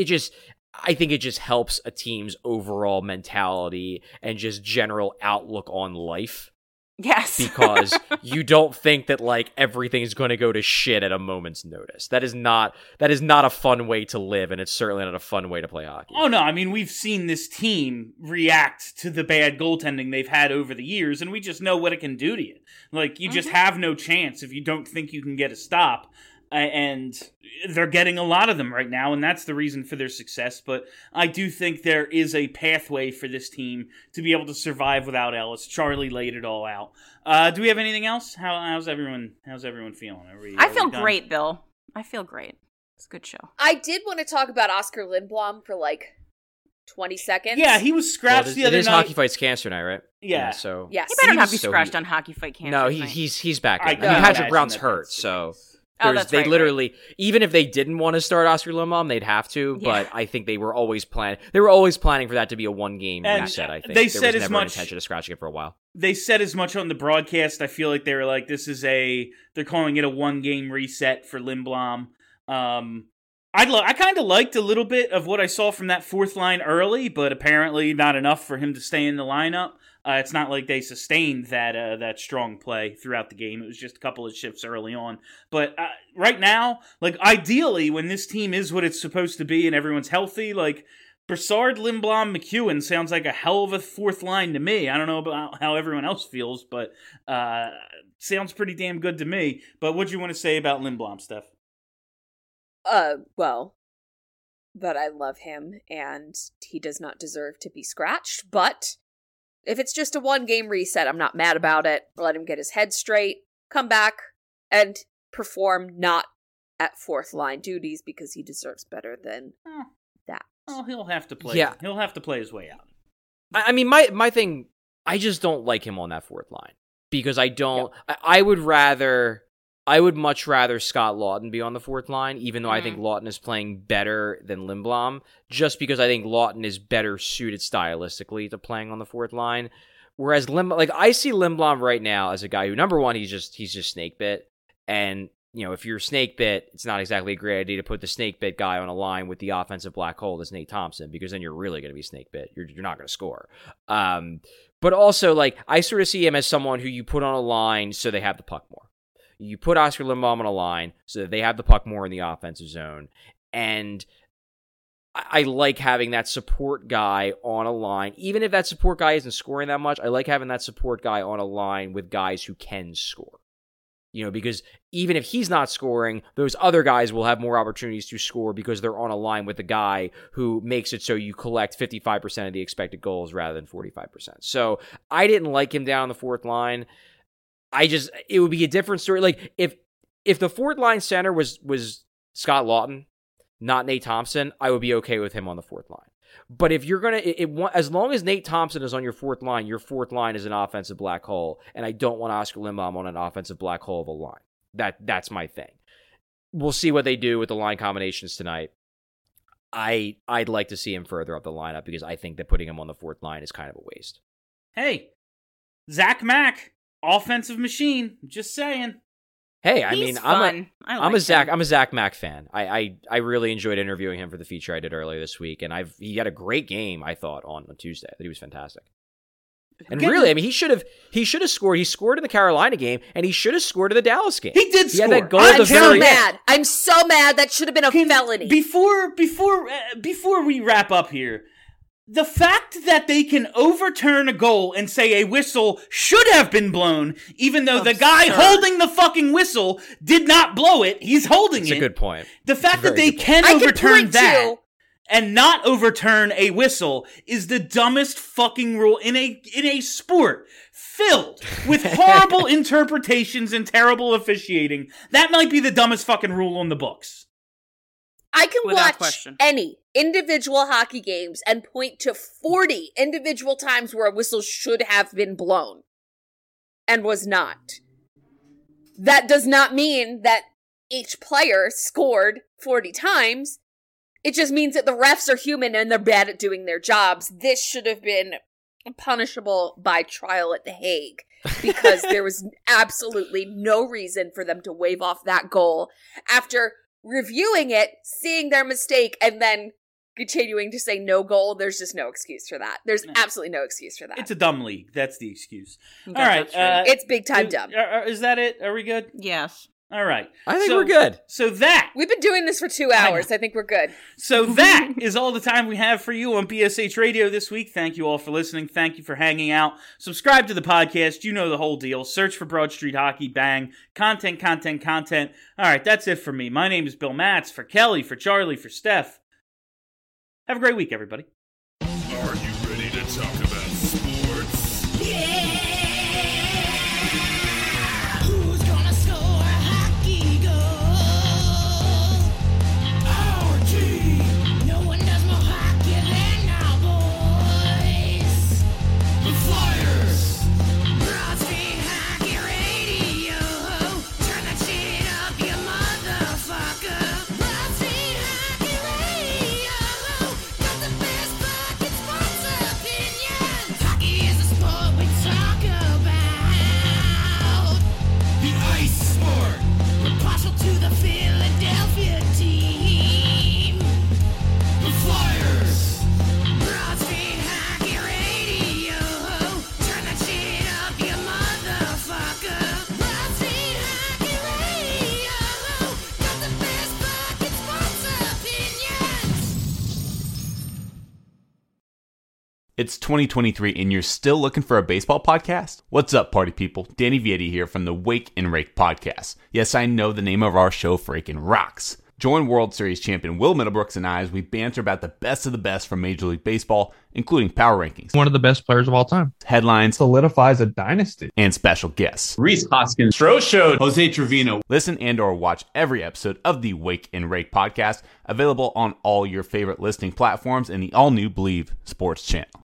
think it just helps a team's overall mentality and just general outlook on life. Yes. Because you don't think that everything is going to go to shit at a moment's notice. That is not a fun way to live, and it's certainly not a fun way to play hockey. Oh no, I mean we've seen this team react to the bad goaltending they've had over the years, and we just know what it can do to you. You just have no chance if you don't think you can get a stop. And they're getting a lot of them right now, and that's the reason for their success. But I do think there is a pathway for this team to be able to survive without Ellis. Charlie laid it all out. Do we have anything else? How's everyone feeling? I feel great, Bill. I feel great. It's a good show. I did want to talk about Oscar Lindblom for 20 seconds. Yeah, he was scratched the other night. It is Hockey Fights Cancer night, right? Yeah. So yes. He better not be scratched on Hockey Fight Cancer. No, he's back. Patrick Brown's hurt, so. That's they right, literally, even if they didn't want to start Oscar Lindblom, they'd have to. Yeah. But I think they were always planning for that to be a one-game reset. I think they said was as never much an intention of scratching it for a while. They said as much on the broadcast. I feel like they were like, "This is they're calling it a one-game reset for Lindblom." I kind of liked a little bit of what I saw from that fourth line early, but apparently not enough for him to stay in the lineup. It's not like they sustained that strong play throughout the game. It was just a couple of shifts early on. But right now, ideally, when this team is what it's supposed to be and everyone's healthy, Brassard, Lindblom, McEwen sounds like a hell of a fourth line to me. I don't know about how everyone else feels, but sounds pretty damn good to me. But what do you want to say about Lindblom, Steph? Well, that I love him and he does not deserve to be scratched, but if it's just a one-game reset, I'm not mad about it. Let him get his head straight, come back, and perform not at fourth-line duties because he deserves better than that. Oh, he'll have to play. Yeah. He'll have to play his way out. I mean, my thing, I just don't like him on that fourth line because I don't. Yep. I would rather I would much rather Scott Laughton be on the fourth line, even though I think Laughton is playing better than Lindblom, just because I think Laughton is better suited stylistically to playing on the fourth line. Whereas I see Lindblom right now as a guy who, number one, he's just snake bit. And, if you're snake bit, it's not exactly a great idea to put the snake bit guy on a line with the offensive black hole that's Nate Thompson, because then you're really going to be snake bit. You're not going to score. But also, I sort of see him as someone who you put on a line so they have the puck more. You put Oscar Lindblom on a line so that they have the puck more in the offensive zone. And I like having that support guy on a line. Even if that support guy isn't scoring that much, I like having that support guy on a line with guys who can score. Because even if he's not scoring, those other guys will have more opportunities to score because they're on a line with a guy who makes it so you collect 55% of the expected goals rather than 45%. So I didn't like him down the fourth line. It would be a different story. If the fourth line center was Scott Laughton, not Nate Thompson, I would be okay with him on the fourth line. But if you're as long as Nate Thompson is on your fourth line is an offensive black hole, and I don't want Oscar Lindblom on an offensive black hole of a line. That's my thing. We'll see what they do with the line combinations tonight. I'd like to see him further up the lineup because I think that putting him on the fourth line is kind of a waste. Hey, Zach Mack. Offensive machine. Just saying. Hey, He's I'm a fun. I'm a Zach Mack fan. I really enjoyed interviewing him for the feature I did earlier this week, and he had a great game, I thought, on Tuesday. That he was fantastic. And really, he should have scored. He scored in the Carolina game, and he should have scored in the Dallas game. He did score. Had that goal I'm so mad. I'm so mad. That should have been a felony. Before we wrap up here, the fact that they can overturn a goal and say a whistle should have been blown, even though the guy holding the fucking whistle did not blow it, he's holding it. That's a good point. The fact that they can overturn that and not overturn a whistle is the dumbest fucking rule in a sport filled with horrible interpretations and terrible officiating. That might be the dumbest fucking rule on the books. I can watch any individual hockey games and point to 40 individual times where a whistle should have been blown and was not. That does not mean that each player scored 40 times. It just means that the refs are human and they're bad at doing their jobs. This should have been punishable by trial at The Hague because there was absolutely no reason for them to wave off that goal after reviewing it, seeing their mistake, and then continuing to say no goal. There's just no excuse for that. There's absolutely no excuse for that. It's a dumb league. That's the excuse. All right. It's big time dumb. Is that it? Are we good? Yes. All right. I think we're good. So that... We've been doing this for 2 hours. I think we're good. So that is all the time we have for you on BSH Radio this week. Thank you all for listening. Thank you for hanging out. Subscribe to the podcast. You know the whole deal. Search for Broad Street Hockey. Bang. Content. All right, that's it for me. My name is Bill Matz. For Kelly, for Charlie, for Steph. Have a great week, everybody. Are you ready to talk about sports? Yeah! Who's gonna score a hockey goal? Our team! No one does more hockey than our boys! The Flyers! Broad Street Hockey Radio! Turn that shit up, you motherfucker! Broad Street Hockey Radio! Got the best fucking sports opinions! Hockey is a sport we talk about! The ice sport! We're partial to the Philadelphia team! The Flyers! Broad Street Hockey Radio! Turn that shit up, you motherfucker! Broad Street Hockey Radio! Got the best fucking sports opinions! It's 2023 and you're still looking for a baseball podcast? What's up, party people? Danny Vietti here from the Wake and Rake podcast. Yes, I know the name of our show freaking rocks. Join World Series champion Will Middlebrooks and I as we banter about the best of the best from Major League Baseball, including power rankings, one of the best players of all time, headlines, solidifies a dynasty, and special guests. Reese Hoskins, Stro Show, Jose Trevino. Listen and or watch every episode of the Wake and Rake podcast, available on all your favorite listening platforms and the all-new Believe Sports channel.